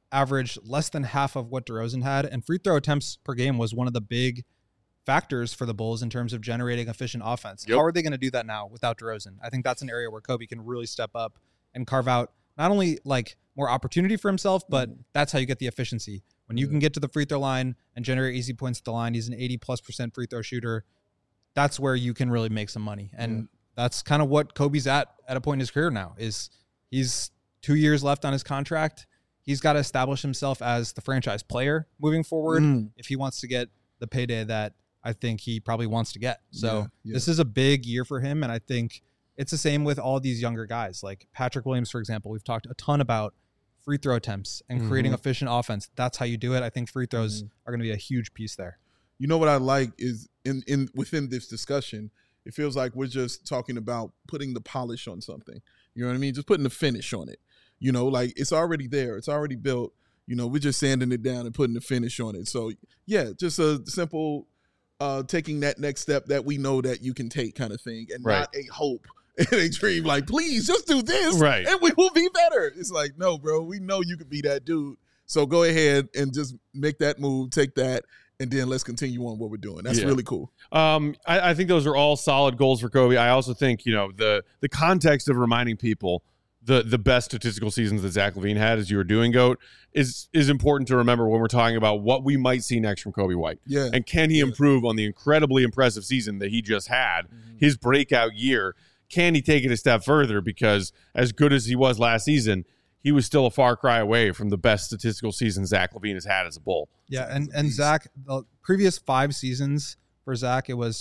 averaged less than half of what DeRozan had, and free throw attempts per game was one of the big factors for the Bulls in terms of generating efficient offense. Yep. How are they going to do that now without DeRozan? I think that's an area where Kobe can really step up and carve out not only like more opportunity for himself, but that's how you get the efficiency. When you can get to the free throw line and generate easy points at the line, he's an 80+% free throw shooter. That's where you can really make some money. And that's kind of what Kobe's at a point in his career now. Is he's 2 years left on his contract. He's got to establish himself as the franchise player moving forward if he wants to get the payday that I think he probably wants to get. So this is a big year for him, and I think it's the same with all these younger guys. Like Patrick Williams, for example, we've talked a ton about free throw attempts and creating efficient offense. That's how you do it. I think free throws are going to be a huge piece there. You know what I like is in within this discussion, it feels like we're just talking about putting the polish on something. You know what I mean? Just putting the finish on it. You know, like it's already there. It's already built. You know, we're just sanding it down and putting the finish on it. So, yeah, just a simple taking that next step that we know that you can take kind of thing, and not a hope and a dream like, please just do this and we will be better. It's like, no, bro, we know you could be that dude. So go ahead and just make that move, take that, and then let's continue on what we're doing. That's really cool. I think those are all solid goals for Kobe. I also think, you know, the context of reminding people the best statistical seasons that Zach LaVine had, as you were doing, GOAT, is important to remember when we're talking about what we might see next from Kobe White. Yeah. And can he improve on the incredibly impressive season that he just had, his breakout year? Can he take it a step further? Because as good as he was last season, he was still a far cry away from the best statistical season Zach LaVine has had as a Bull. Yeah, and Zach, the previous 5 seasons for Zach, it was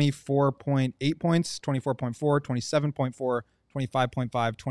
24.8 points, 24.4, 27.4, 25.5,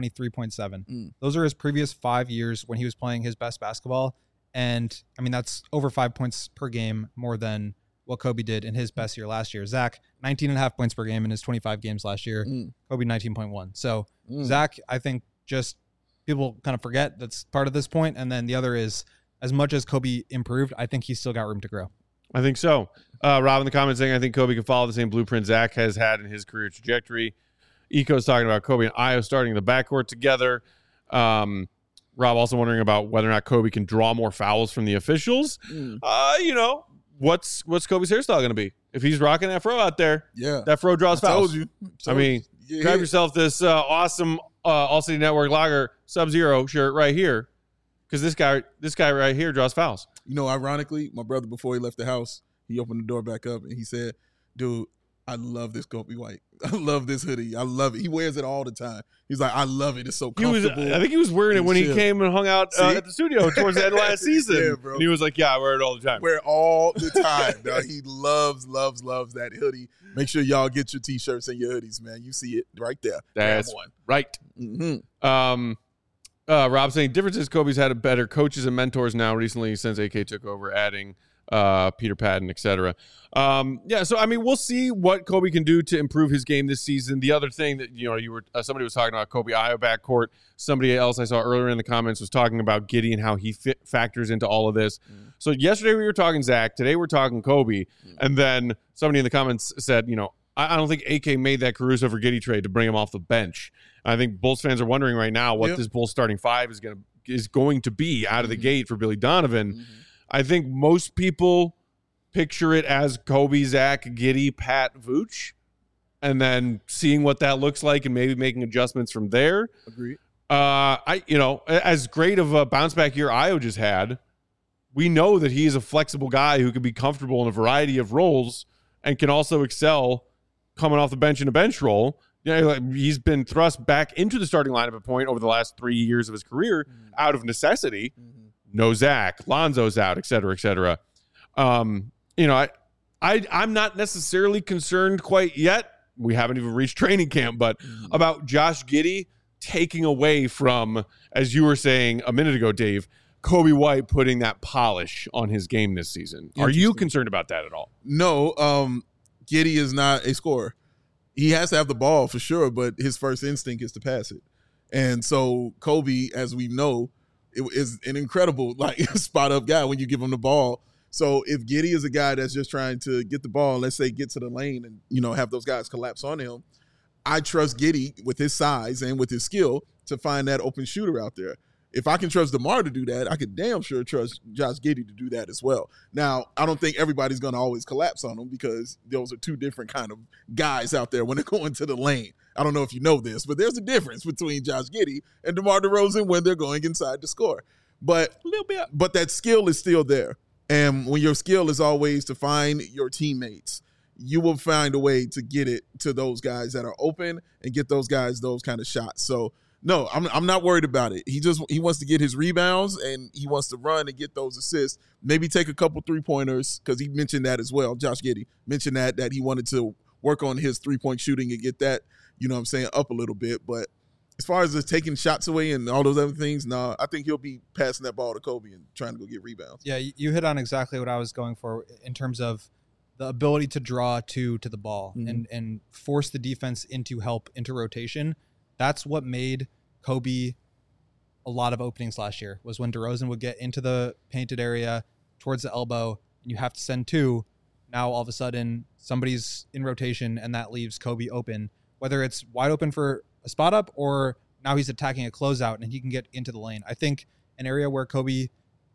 23.7. Those are his previous 5 years when he was playing his best basketball. And, I mean, that's over 5 points per game more than what Kobe did in his best year last year. Zach, 19.5 points per game in his 25 games last year. Kobe, 19.1. So, Zach, I think just people kind of forget that's part of this point. And then the other is, as much as Kobe improved, I think he's still got room to grow. I think so. Rob in the comments saying, I think Kobe can follow the same blueprint Zach has had in his career trajectory. Eco's talking about Kobe and Io starting the backcourt together. Rob also wondering about whether or not Kobe can draw more fouls from the officials. You know, what's Kobe's hairstyle going to be? If he's rocking that fro out there, that fro draws fouls. Told I mean, grab yourself this awesome All City Network Lager Sub-Zero shirt right here, because this guy right here draws fouls. You know, ironically, my brother, before he left the house, he opened the door back up and he said, dude, I love this Kobe White. I love this hoodie. I love it. He wears it all the time. He's like, I love it. It's so comfortable. I think he was wearing it when he came and hung out at the studio towards the end of last season. Yeah, bro. And he was like, yeah, I wear it all the time. Wear it all the time. Dog. He loves that hoodie. Make sure y'all get your T-shirts and your hoodies, man. You see it right there. That's one. Right. Rob saying, difference is Kobe's had a better coaches and mentors now recently since AK took over, adding Peter Patton, etc. So I mean, we'll see what Kobe can do to improve his game this season. The other thing that you were somebody was talking about Kobe Io backcourt. Somebody else I saw earlier in the comments was talking about Giddey and how he factors into all of this. So yesterday we were talking Zach, today we're talking Kobe, and then somebody in the comments said, I don't think AK made that Caruso for Giddey trade to bring him off the bench. I think Bulls fans are wondering right now what this Bulls starting 5 is going to be out of the gate for Billy Donovan. I think most people picture it as Kobe, Zach, Giddey, Pat, Vooch, and then seeing what that looks like and maybe making adjustments from there. Agreed. As great of a bounce back year Io just had, we know that he is a flexible guy who can be comfortable in a variety of roles and can also excel coming off the bench in a bench role. He's been thrust back into the starting lineup at point over the last 3 years of his career out of necessity. No Zach, Lonzo's out, et cetera, et cetera. I'm not necessarily concerned quite yet. We haven't even reached training camp, but about Josh Giddey taking away from, as you were saying a minute ago, Dave, Kobe White putting that polish on his game this season. Are you concerned about that at all? No, Giddey is not a scorer. He has to have the ball for sure, but his first instinct is to pass it. And so Kobe, as we know, is an incredible spot up guy when you give him the ball. So if Giddey is a guy that's just trying to get the ball, let's say get to the lane and have those guys collapse on him, I trust Giddey with his size and with his skill to find that open shooter out there. if I can trust DeMar to do that, I could damn sure trust Josh Giddey to do that as well. Now, I don't think everybody's going to always collapse on him because those are two different kind of guys out there when they're going to the lane. I don't know if you know this, but there's a difference between Josh Giddey and DeMar DeRozan when they're going inside to score. But a little bit, but that skill is still there. And when your skill is always to find your teammates, you will find a way to get it to those guys that are open and get those guys those kind of shots. So, no, I'm not worried about it. He wants to get his rebounds and he wants to run and get those assists. Maybe take a couple three-pointers because he mentioned that as well. Josh Giddey mentioned that he wanted to work on his three-point shooting and get that, up a little bit. But as far as just taking shots away and all those other things, no, I think he'll be passing that ball to Kobe and trying to go get rebounds. Yeah, you hit on exactly what I was going for in terms of the ability to draw to the ball and force the defense into rotation. That's what made Kobe a lot of openings last year, was when DeRozan would get into the painted area towards the elbow and you have to send two. Now all of a sudden somebody's in rotation and that leaves Kobe open, whether it's wide open for a spot up or now he's attacking a closeout and he can get into the lane. I think an area where Kobe,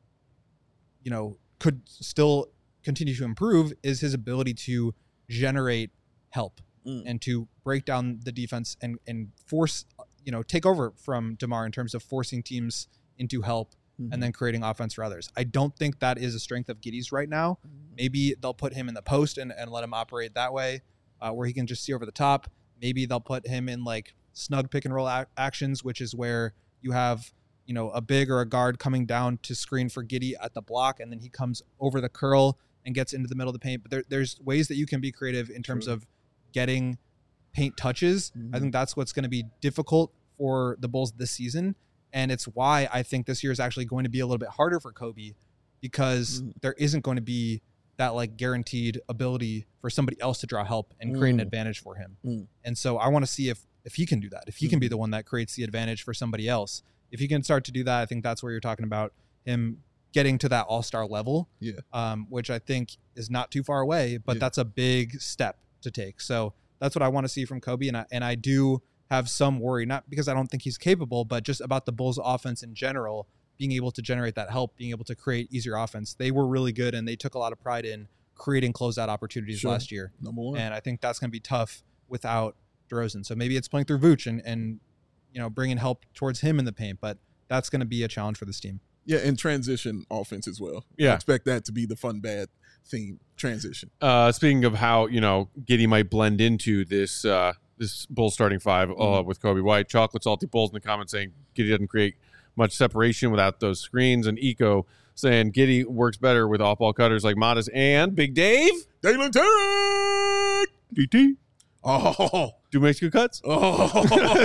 could still continue to improve is his ability to generate help and to break down the defense and force, take over from DeMar in terms of forcing teams into help and then creating offense for others. I don't think that is a strength of Giddey's right now. Maybe they'll put him in the post and let him operate that way where he can just see over the top. Maybe they'll put him in like snug pick and roll actions, which is where you have, a big or a guard coming down to screen for Giddey at the block, and then he comes over the curl and gets into the middle of the paint. But there's ways that you can be creative in terms of getting paint touches. I think that's what's going to be difficult for the Bulls this season. And it's why I think this year is actually going to be a little bit harder for Kobe, because there isn't going to be that like guaranteed ability for somebody else to draw help and create an advantage for him. And so I want to see if he can do that, if he can be the one that creates the advantage for somebody else. If he can start to do that, I think that's where you're talking about him getting to that all-star level, which I think is not too far away, but that's a big step to take. So that's what I want to see from Kobe. And I do have some worry, not because I don't think he's capable, but just about the Bulls offense in general, being able to generate that help, being able to create easier offense. They were really good and they took a lot of pride in creating closeout opportunities last year. Number one. And I think that's going to be tough without DeRozan. So maybe it's playing through Vooch and bringing help towards him in the paint, but that's going to be a challenge for this team. Yeah, and transition offense as well. Yeah. I expect that to be the fun, bad theme, transition. Speaking of how, Giddey might blend into this Bulls starting five with Kobe White, Chocolate Salty Bulls in the comments saying Giddey doesn't create much separation without those screens, and Eco saying Giddey works better with off-ball cutters like Modest and Big Dave. Dalen Tarek! DT. Oh. Do Mexico cuts? Oh.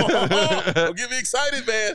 Don't get me excited, man.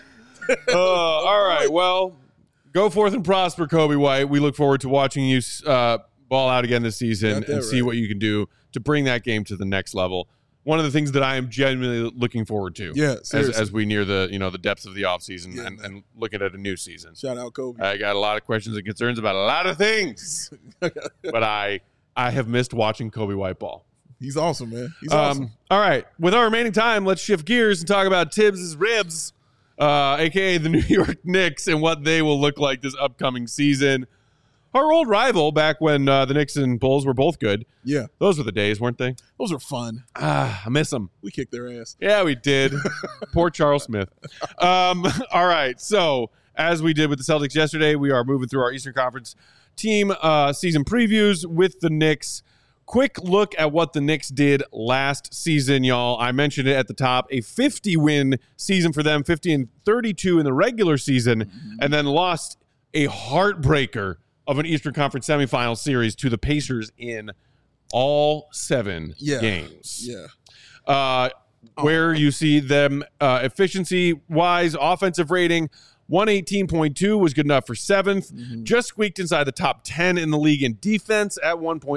All right. Well, go forth and prosper, Kobe White. We look forward to watching you ball out again this season and see what you can do to bring that game to the next level. One of the things that I am genuinely looking forward to as we near the depths of the offseason and looking at a new season. Shout out Kobe. I got a lot of questions and concerns about a lot of things, but I have missed watching Kobe White ball. He's awesome, man. He's awesome. All right. With our remaining time, let's shift gears and talk about Tibbs' Ribs, a.k.a. the New York Knicks, and what they will look like this upcoming season. Our old rival back when the Knicks and Bulls were both good. Yeah. Those were the days, weren't they? Those were fun. I miss them. We kicked their ass. Yeah, we did. Poor Charles Smith. All right. So, as we did with the Celtics yesterday, we are moving through our Eastern Conference team season previews with the Knicks. Quick look at what the Knicks did last season, y'all. I mentioned it at the top. A 50-win season for them, 50-32 in the regular season, and then lost a heartbreaker of an Eastern Conference semifinal series to the Pacers in all 7 games. Yeah. Where you see them efficiency-wise, offensive rating, 118.2 was good enough for 7th. Just squeaked inside the top 10 in the league in defense at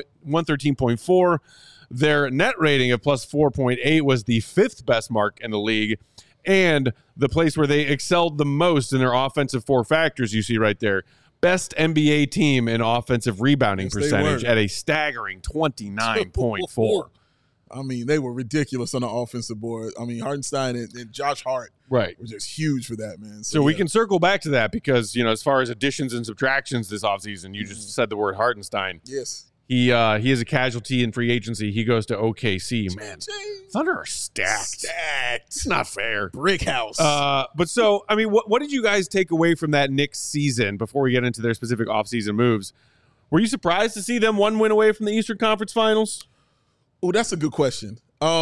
113.4. Their net rating of plus 4.8 was the 5th best mark in the league. And the place where they excelled the most in their offensive 4 factors, you see right there. Best NBA team in offensive rebounding percentage at a staggering 29.4. I mean, they were ridiculous on the offensive board. I mean, Hartenstein and Josh Hart Right. were just huge for that, man. So we can circle back to that because, as far as additions and subtractions this offseason, you just said the word Hartenstein. Yes. He is a casualty in free agency. He goes to OKC. Man, Thunder are stacked. It's not fair. Brick house. But so, I mean, what did you guys take away from that Knicks season before we get into their specific offseason moves? Were you surprised to see them one win away from the Eastern Conference Finals? Oh, that's a good question.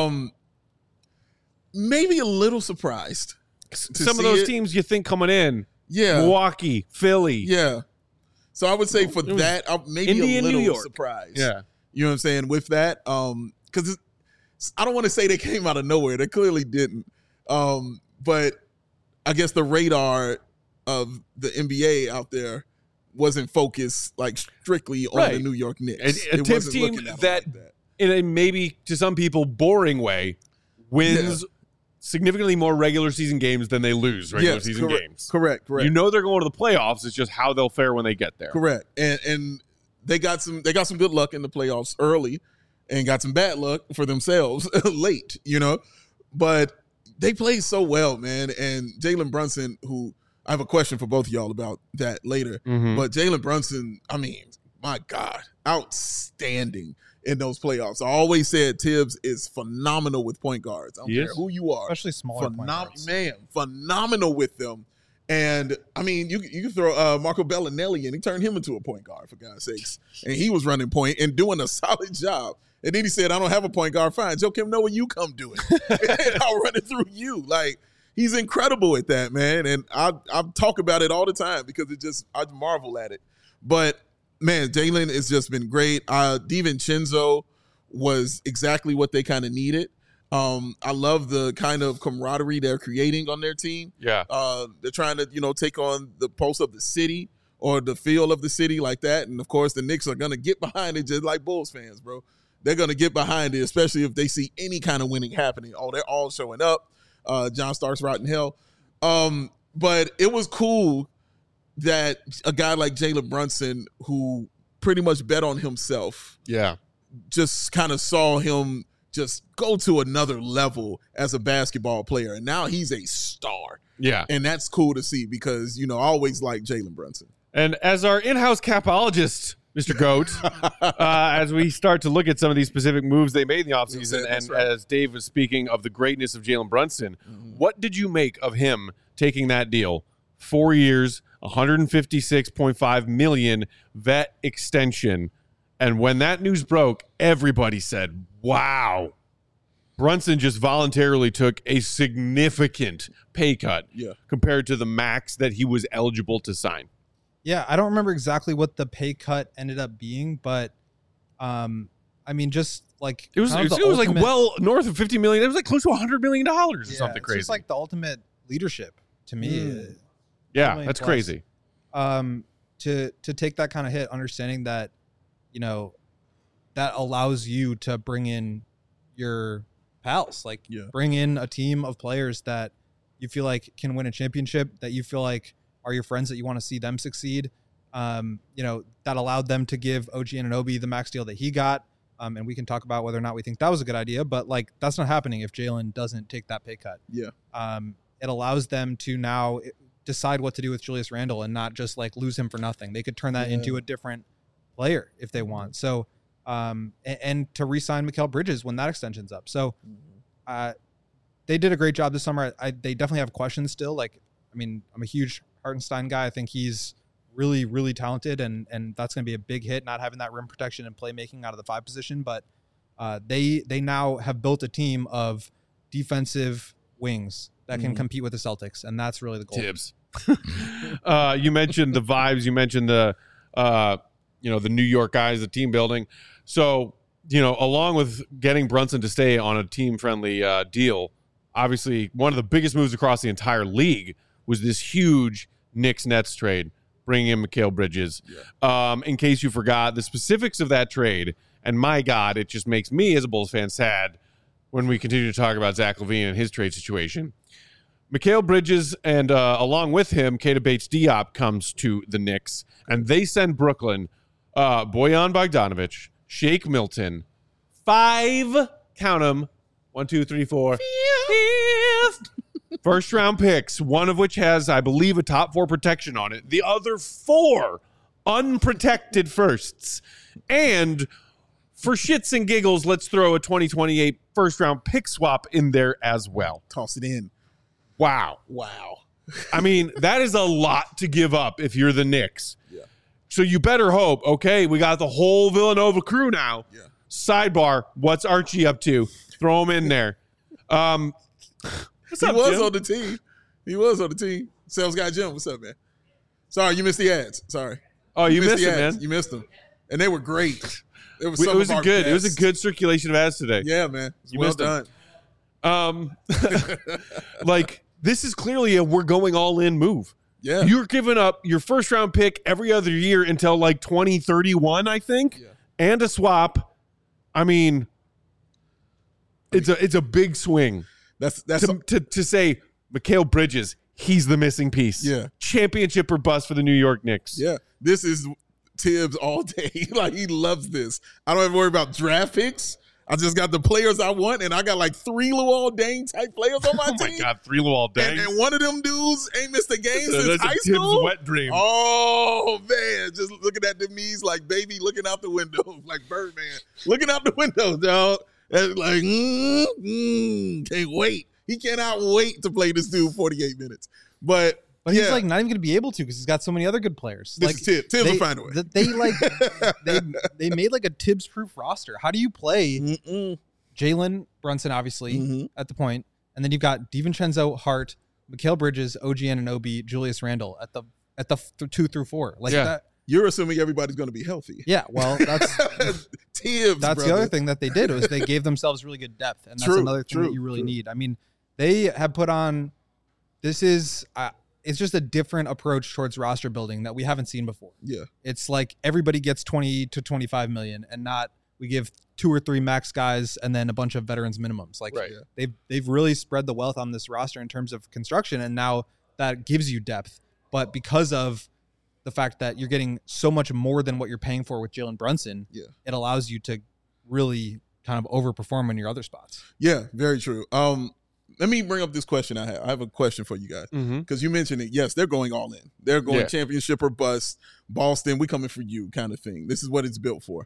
Maybe a little surprised. Some of those teams you think coming in. Yeah. Milwaukee, Philly. Yeah. So I would say for that, maybe Indy a and New little York. surprised. Yeah. You know what I'm saying? With that, because I don't want to say they came out of nowhere. They clearly didn't. But I guess the radar of the NBA out there wasn't focused like strictly on the New York Knicks. A Tibbs team that, in a maybe to some people boring way, wins significantly more regular season games than they lose regular season games. Correct. You know they're going to the playoffs. It's just how they'll fare when they get there. Correct. And they got some good luck in the playoffs early and got some bad luck for themselves late, But they played so well, man. And Jalen Brunson, who I have a question for both of y'all about that later. Mm-hmm. But Jalen Brunson, I mean, my God, outstanding in those playoffs. I always said Tibbs is phenomenal with point guards. I don't care who you are. Especially smaller point guards. Man, phenomenal with them. And, I mean, you can throw Marco Bellinelli in. He turned him into a point guard, for God's sakes. And he was running point and doing a solid job. And then he said, I don't have a point guard. Fine. Joakim Noah, you come do it. And I'll run it through you. Like, he's incredible at that, man. And I talk about it all the time because I marvel at it. But, man, Jalen has just been great. DiVincenzo was exactly what they kind of needed. I love the kind of camaraderie they're creating on their team. Yeah. They're trying to, take on the pulse of the city or the feel of the city like that. And, of course, the Knicks are going to get behind it just like Bulls fans, bro. They're going to get behind it, especially if they see any kind of winning happening. Oh, they're all showing up. John Starks rotting hell. But it was cool that a guy like Jalen Brunson, who pretty much bet on himself, just kind of saw him just go to another level as a basketball player. And now he's a star. Yeah. And that's cool to see because, I always like Jalen Brunson. And as our in-house capologist, Mr. Goat, as we start to look at some of these specific moves they made in the offseason, as Dave was speaking of the greatness of Jalen Brunson, what did you make of him taking that deal? 4 years, $156.5 million vet extension. And when that news broke, everybody said, wow. Brunson just voluntarily took a significant pay cut compared to the max that he was eligible to sign. Yeah, I don't remember exactly what the pay cut ended up being, but I mean, just like it was like well north of $50 million. It was like close to $100 million or something crazy. It's just like the ultimate leadership to me. Yeah, that's crazy. To take that kind of hit, understanding that, that allows you to bring in your pals, bring in a team of players that you feel like can win a championship, that you feel like are your friends, that you want to see them succeed. That allowed them to give OG Anunoby the max deal that he got. And we can talk about whether or not we think that was a good idea, but that's not happening if Jalen doesn't take that pay cut. Yeah. It allows them to now decide what to do with Julius Randle and not just lose him for nothing. They could turn that into a different player if they want. So, and to re-sign Mikal Bridges when that extension's up. So, they did a great job this summer. They definitely have questions still. I'm a huge Hartenstein guy. I think he's really, really talented, and that's going to be a big hit, not having that rim protection and playmaking out of the 5 position. But they now have built a team of defensive wings that can compete with the Celtics, and that's really the goal. Tibbs. You mentioned the vibes. You mentioned the New York guys, the team building. So, along with getting Brunson to stay on a team-friendly deal, obviously one of the biggest moves across the entire league was this huge Knicks-Nets trade, bringing in Mikal Bridges. Yeah. In case you forgot, the specifics of that trade, and my God, it just makes me as a Bulls fan sad when we continue to talk about Zach LaVine and his trade situation. Mikal Bridges and along with him, Keita Bates-Diop comes to the Knicks, and they send Brooklyn Bojan Bogdanovic, Shake Milton, 5 count them. 1, 2, 3, 4. Fifth. First round picks, one of which has, I believe, a top 4 protection on it. The other 4 unprotected firsts. And for shits and giggles, let's throw a 2028 first round pick swap in there as well. Toss it in. Wow. I mean, that is a lot to give up if you're the Knicks. Yeah. So you better hope, okay, we got the whole Villanova crew now. Yeah. Sidebar, what's Archie up to? Throw him in there. What's up, Jim? On the team. He was on the team. Sales guy Jim, what's up, man? Sorry, you missed the ads. Sorry. Oh, you missed the it, ads. man. You missed them. And they were great. It was a good circulation of ads today. Yeah, man. You well missed them. done. Like, this is clearly a we're going all in move. Yeah. You're giving up your first round pick every other year until like 2031, I think, and a swap. I mean, it's a big swing. That's to say Mikal Bridges, he's the missing piece. Yeah. Championship or bust for the New York Knicks. Yeah. This is Tibbs all day. Like, he loves this. I don't have to worry about draft picks. I just got the players I want, and I got like 3 Luol Deng type players on my team. Oh my God, 3 Luol Deng. And one of them dudes ain't missed a game since That's high a Tibbs school. wet dream. Oh man, just looking at the knees like baby looking out the window, like Birdman looking out the window, dog. And like, can't wait. He cannot wait to play this dude 48 minutes. But he's like not even going to be able to because he's got so many other good players. This like is Tibbs. Tibbs will find a way. They made like a Tibbs-proof roster. How do you play Jalen Brunson, obviously, at the point, and then you've got DiVincenzo, Hart, Mikal Bridges, OG Anunoby, Julius Randle at the 2 through 4. Like that. You're assuming everybody's going to be healthy. Yeah, well, that's Tibbs. That's the other thing that they did was they gave themselves really good depth, and that's another thing that you really need. I mean, they have put on. This is it's just a different approach towards roster building that we haven't seen before. Yeah, it's like everybody gets 20 to 25 million, and not we give 2 or 3 max guys and then a bunch of veterans minimums. Like they've really spread the wealth on this roster in terms of construction, and now that gives you depth. But because of the fact that you're getting so much more than what you're paying for with Jalen Brunson, it allows you to really kind of overperform in your other spots. Yeah, very true. Let me bring up this question I have. I have a question for you guys because you mentioned it. Yes, they're going all in. They're going championship or bust. Boston, we coming for you kind of thing. This is what it's built for.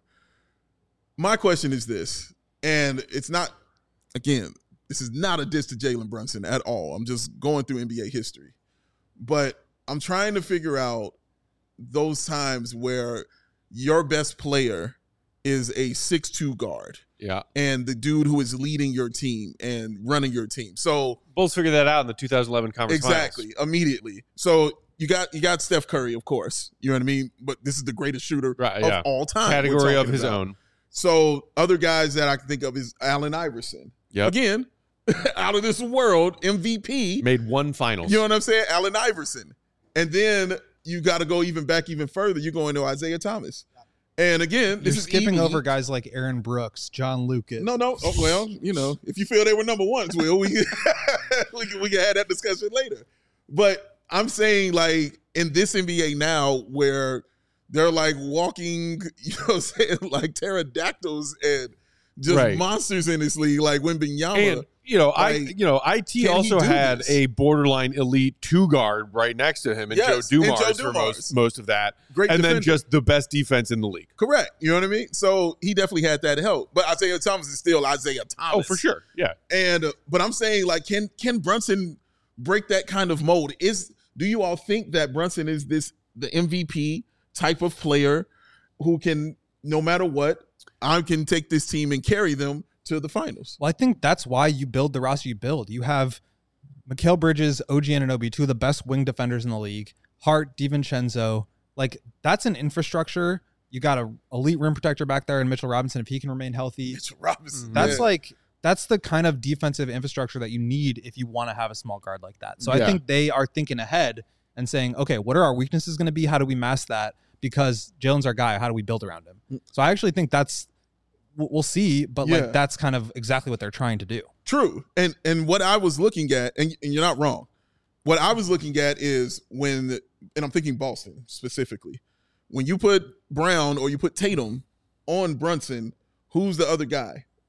My question is this, and it's not, again, this is not a diss to Jalen Brunson at all. I'm just going through NBA history. But I'm trying to figure out those times where your best player is a 6'2" guard. Yeah. And the dude who is leading your team and running your team. So Bulls figured that out in the 2011 conference finals. Immediately. So you got Steph Curry, of course. You know what I mean? But this is the greatest shooter of all time. Category of his own. So other guys that I can think of is Allen Iverson. Yep. Again, out of this world, MVP. Made 1 finals. You know what I'm saying? Allen Iverson. And then you got to go even further. You're going to Isaiah Thomas. And again, you're skipping over guys like Aaron Brooks, John Lucas. No. Oh, well, you know, if you feel they were number ones, Will, we can have that discussion later. But I'm saying, like, in this NBA now where they're like walking, you know what I'm saying, like pterodactyls and just monsters in this league, like Wembanyama. And IT also had a borderline elite 2 guard right next to him, and Joe Dumars for most of that. Great and defender. then just the best defense in the league. Correct. You know what I mean? So he definitely had that help. But Isaiah Thomas is still Isaiah Thomas. Oh, for sure. Yeah. And but I'm saying, like, can Brunson break that kind of mold? Do you all think that Brunson is the MVP type of player who can, no matter what, I can take this team and carry them to the finals? Well, I think that's why you build the roster you build. You have Mikal Bridges, OG Anunoby, 2 of the best wing defenders in the league. Hart, DiVincenzo. Like, that's an infrastructure. You got an elite rim protector back there in Mitchell Robinson if he can remain healthy. Mitchell Robinson. That's the kind of defensive infrastructure that you need if you want to have a small guard like that. So I think they are thinking ahead and saying, okay, what are our weaknesses going to be? How do we mask that? Because Jalen's our guy. How do we build around him? So I actually think we'll see, but like that's kind of exactly what they're trying to do. True. And what I was looking at, and you're not wrong, what I was looking at is and I'm thinking Boston specifically, when you put Brown or you put Tatum on Brunson, who's the other guy?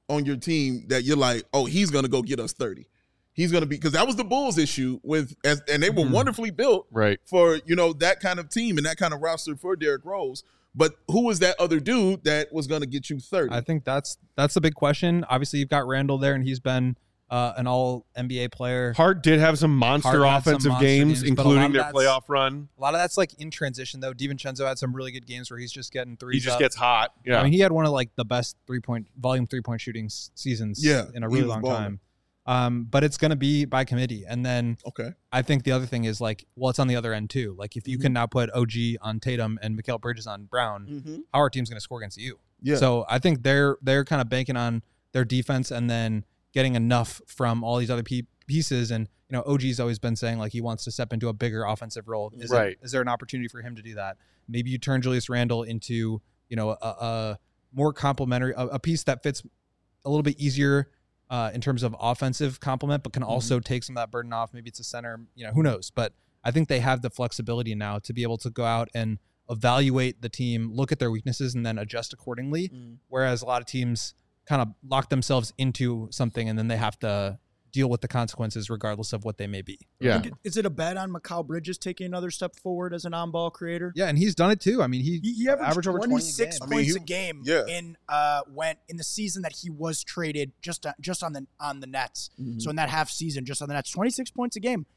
on your team that you're like, oh, he's going to go get us 30. He's going to be, because that was the Bulls' issue and they were wonderfully built for, that kind of team and that kind of roster for Derrick Rose. But who was that other dude that was going to get you 30? I think that's the big question. Obviously, you've got Randall there, and he's been an all-NBA player. Hart did have some monster offensive games, including their playoff run. A lot of that's like in transition, though. DiVincenzo had some really good games where he's just getting threes. He just gets hot. Yeah, I mean, he had one of like the best volume three-point shooting seasons in a really long time. But it's going to be by committee. And then I think the other thing is like, well, it's on the other end too. Like if you can now put OG on Tatum and Mikal Bridges on Brown, how our team's going to score against you? Yeah. So I think they're kind of banking on their defense and then getting enough from all these other pieces. And, OG's always been saying like he wants to step into a bigger offensive role. Is there an opportunity for him to do that? Maybe you turn Julius Randle into, a more complementary, a piece that fits a little bit easier in terms of offensive complement, but can also take some of that burden off. Maybe it's a center, who knows? But I think they have the flexibility now to be able to go out and evaluate the team, look at their weaknesses, and then adjust accordingly. Whereas a lot of teams kind of lock themselves into something and then they have to deal with the consequences regardless of what they may be. Yeah. Is it a bet on Mikal Bridges taking another step forward as an on-ball creator? Yeah, and he's done it too. I mean, he averaged over 26 points a game in the season that he was traded just on the Nets. So in that half season, just on the Nets, 26 points a game.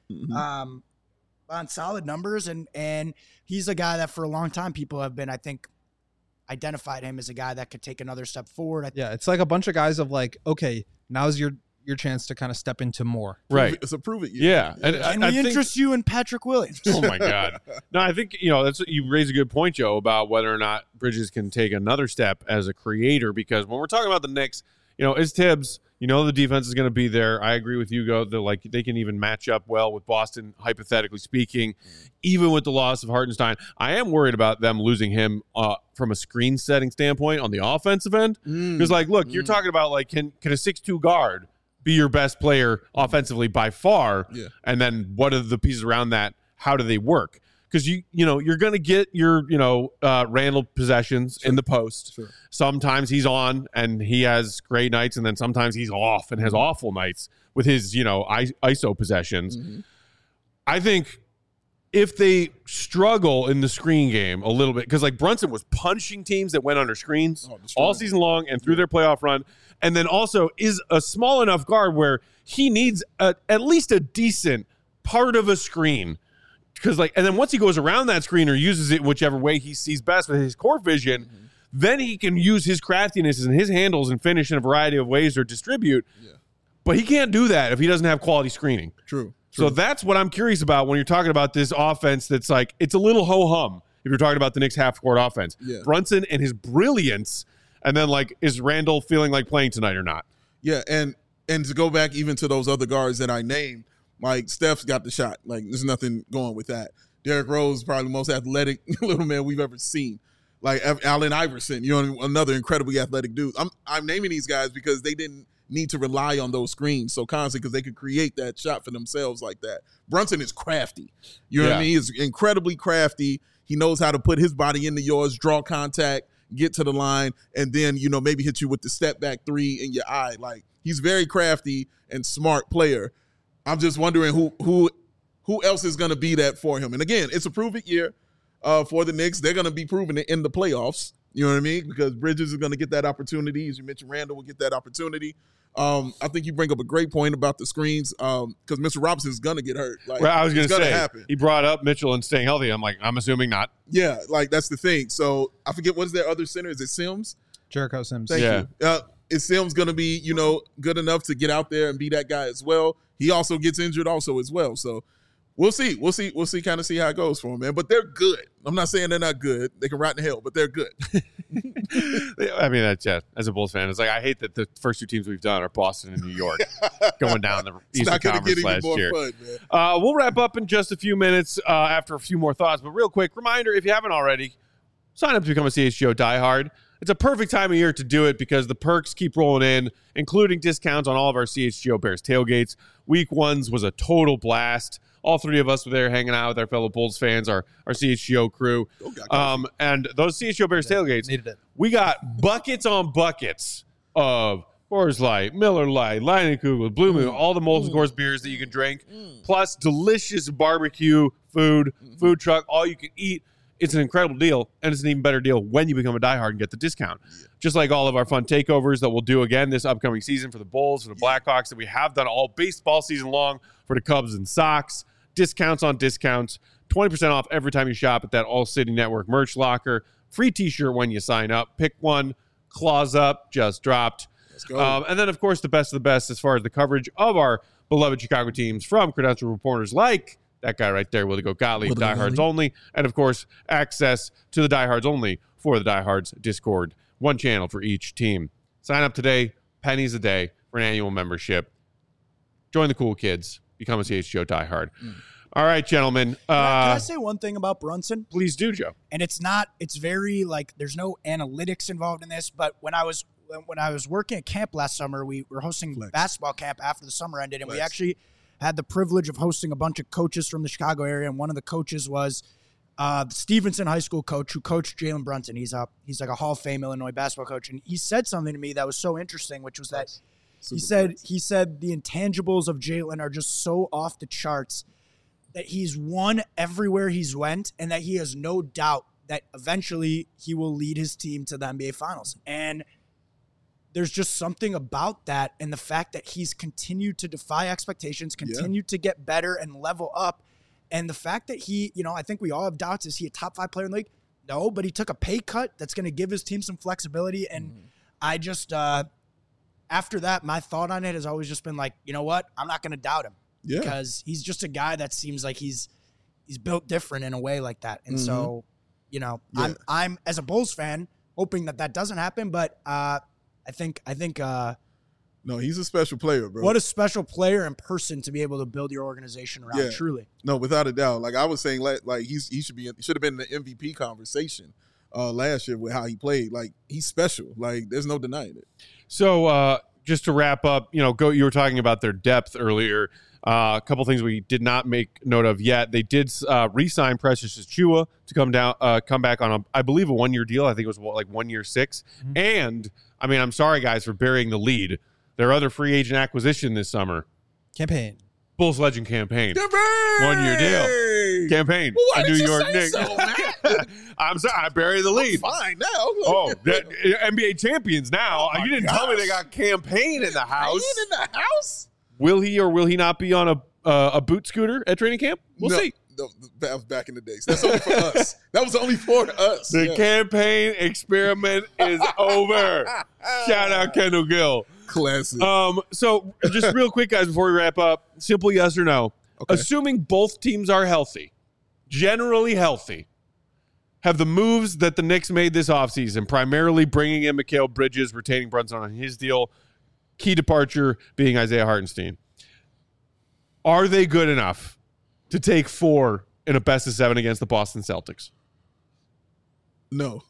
On solid numbers, and he's a guy that for a long time people have been, I think, identified him as a guy that could take another step forward. It's like a bunch of guys of like, okay, now's your chance to kind of step into more. Right. So prove it. Yeah. And we interest you in Patrick Williams. Oh my God. No, I think, you raise a good point, Joe, about whether or not Bridges can take another step as a creator, because when we're talking about the Knicks, it's Tibbs, the defense is going to be there. I agree with you, they can even match up well with Boston, hypothetically speaking, even with the loss of Hartenstein. I am worried about them losing him from a screen setting standpoint on the offensive end. Because look, you're talking about can a 6'2" guard be your best player offensively by far? Yeah. And then what are the pieces around that? How do they work? Because you're going to get your Randall possessions in the post. Sure. Sometimes he's on and he has great nights, and then sometimes he's off and has awful nights with his ISO possessions. I think if they struggle in the screen game a little bit, because Brunson was punching teams that went under screens all season long and through their playoff run, and then also is a small enough guard where he needs at least a decent part of a screen. Because and then once he goes around that screen or uses it whichever way he sees best with his court vision, then he can use his craftiness and his handles and finish in a variety of ways or distribute. Yeah. But he can't do that if he doesn't have quality screening. True. So that's what I'm curious about when you're talking about this offense that's it's a little ho-hum if you're talking about the Knicks half-court offense. Yeah. Brunson and his brilliance, and then is Randall feeling like playing tonight or not? Yeah, and to go back even to those other guards that I named, Steph's got the shot. There's nothing going with that. Derrick Rose is probably the most athletic little man we've ever seen. Allen Iverson, another incredibly athletic dude. I'm naming these guys because they didn't need to rely on those screens so constantly because they could create that shot for themselves like that. Brunson is crafty. You know what I mean? He's incredibly crafty. He knows how to put his body into yours, draw contact, get to the line, and then, maybe hit you with the step back three in your eye. He's very crafty and smart player. I'm just wondering who else is going to be that for him. And again, it's a prove it year for the Knicks. They're going to be proving it in the playoffs. You know what I mean? Because Bridges is going to get that opportunity. As you mentioned, Randall will get that opportunity. I think you bring up a great point about the screens because Mr. Robinson is going to get hurt. I was going to say, happen. He brought up Mitchell and staying healthy. I'm assuming not. Yeah, that's the thing. So I forget, what is their other center? Is it Sims? Jericho Sims. Thank you. Is Sims going to be, good enough to get out there and be that guy as well? He also gets injured also as well. So we'll see. We'll see how it goes for him, man. But they're good. I'm not saying they're not good. They can rot in hell, but they're good. I mean, that's as a Bulls fan, it's I hate that the first two teams we've done are Boston and New York going down the Eastern Conference last year. Fun, man. We'll wrap up in just a few minutes after a few more thoughts. But real quick, reminder, if you haven't already, sign up to become a CHGO diehard. It's a perfect time of year to do it because the perks keep rolling in, including discounts on all of our CHGO Bears tailgates. Week 1 was a total blast. All three of us were there hanging out with our fellow Bulls fans, our CHGO crew. And those CHGO Bears tailgates, we got buckets on buckets of Coors Light, Miller Lite, Leinenkugel, Blue Moon, all the Molson Coors beers that you can drink, plus delicious barbecue food, food truck, all you can eat. It's an incredible deal, and it's an even better deal when you become a diehard and get the discount. Just like all of our fun takeovers that we'll do again this upcoming season for the Bulls, for the Blackhawks, that we have done all baseball season long for the Cubs and Sox. Discounts on discounts, 20% off every time you shop at that All City Network merch locker. Free t-shirt when you sign up. Pick one. Claws Up just dropped. Let's go. And then, of course, the best of the best as far as the coverage of our beloved Chicago teams from credentialed reporters like that guy right there, Willie Gottlieb, Diehards Only. And, of course, access to the Diehards Only for the Diehards Discord. One channel for each team. Sign up today, pennies a day for an annual membership. Join the cool kids. Become a CHGO diehard. All right, gentlemen. Can I say one thing about Brunson? Please do, Joe. And it's very like there's no analytics involved in this, but when I was working at camp last summer, we were hosting basketball camp after the summer ended, and we actually had the privilege of hosting a bunch of coaches from the Chicago area, and one of the coaches was the Stevenson High School coach who coached Jalen Brunson. He's like a Hall of Fame Illinois basketball coach, and he said something to me that was so interesting, which was that he said the intangibles of Jalen are just so off the charts that he's won everywhere he's went, and that he has no doubt that eventually he will lead his team to the NBA Finals. And there's just something about that, and the fact that he's continued to defy expectations, continued to get better and level up, and the fact that he, I think we all have doubts, is he a top 5 player in the league? No, but he took a pay cut that's going to give his team some flexibility, and I just, after that, my thought on it has always just been like, you know what? I'm not going to doubt him. Yeah. Because he's just a guy that seems like he's built different in a way like that. And so, I'm as a Bulls fan hoping that doesn't happen, but I think no, he's a special player, bro. What a special player in person to be able to build your organization around, truly. No, without a doubt. Like I was saying, like he should have been in the MVP conversation last year with how he played. Like he's special. Like there's no denying it. So just to wrap up, you were talking about their depth earlier. A couple things we did not make note of yet. They did re-sign Precious Achiuwa to come back on I believe a 1-year deal. I think it was like 1 year 6. And I mean, I'm sorry guys for burying the lead. Their other free agent acquisition this summer, Campaign, Bulls Legend Campaign, 1-year deal. Campaign, well, New York Knicks. So, I'm sorry, I buried the lead. Fine now. Oh, NBA champions now. You didn't tell me they got Campaign in the house. In the house. Will he or will he not be on a boot scooter at training camp? We'll see. No, that was back in the days. That's only for us. That was only for us. The Campaign experiment is over. Shout out Kendall Gill. Classic. So just real quick, guys, before we wrap up, simple yes or no. Okay. Assuming both teams are healthy, generally healthy, have the moves that the Knicks made this offseason, primarily bringing in Mikal Bridges, retaining Brunson on his deal, key departure being Isaiah Hartenstein. Are they good enough to take 4 in a best of 7 against the Boston Celtics? No.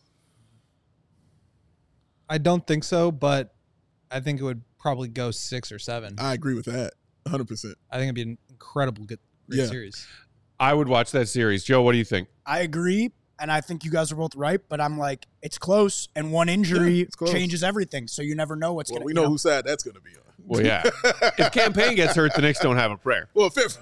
I don't think so, but I think it would probably go 6 or 7. I agree with that 100%. I think it'd be an incredible great series. I would watch that series. Joe, what do you think? I agree, and I think you guys are both right, but I'm like, it's close, and one injury changes everything, so you never know what's going to We know whose side that's going to be on. Well, yeah. If Campaign gets hurt, the Knicks don't have a prayer. Well, fifth.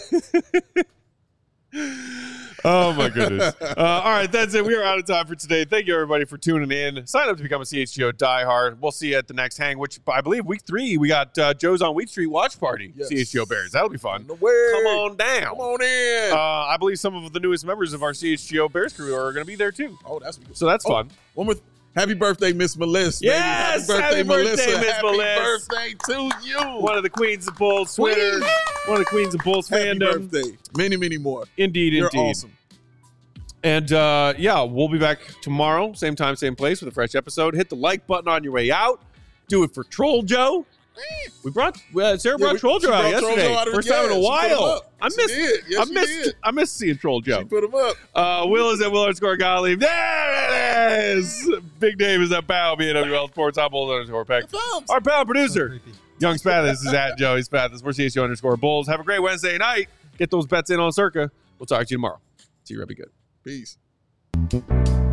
Oh, my goodness. All right, that's it. We are out of time for today. Thank you, everybody, for tuning in. Sign up to become a CHGO diehard. We'll see you at the next hang, which I believe week 3, we got Joe's on Wheat Street Watch Party, CHGO Bears. That'll be fun. Come on down. Come on in. I believe some of the newest members of our CHGO Bears crew are going to be there, too. Oh, that's good. So that's fun. One more. Happy birthday, Miss Melissa. Yes, happy birthday, Miss Melissa. Happy birthday to you. One of the Queens of Bulls Twitter. One of the Queens of Bulls fandom. Happy birthday. Many, many more. Indeed, You're indeed. Awesome. And, we'll be back tomorrow, same time, same place, with a fresh episode. Hit the like button on your way out. Do it for Troll Joe. Sarah brought Troll Joe out yesterday. First time in a while. I missed seeing Troll Joe. She put him up. Will is at Will_Gottlieb. There it is. Big Dave is at Bow, BNWL Sports. I'm Bull_Peck. Our pal producer, Young Spathis, is at Joey Spathis. We're CHGO_Bulls. Have a great Wednesday night. Get those bets in on Circa. We'll talk to you tomorrow. See you, Rebby. Good. Peace.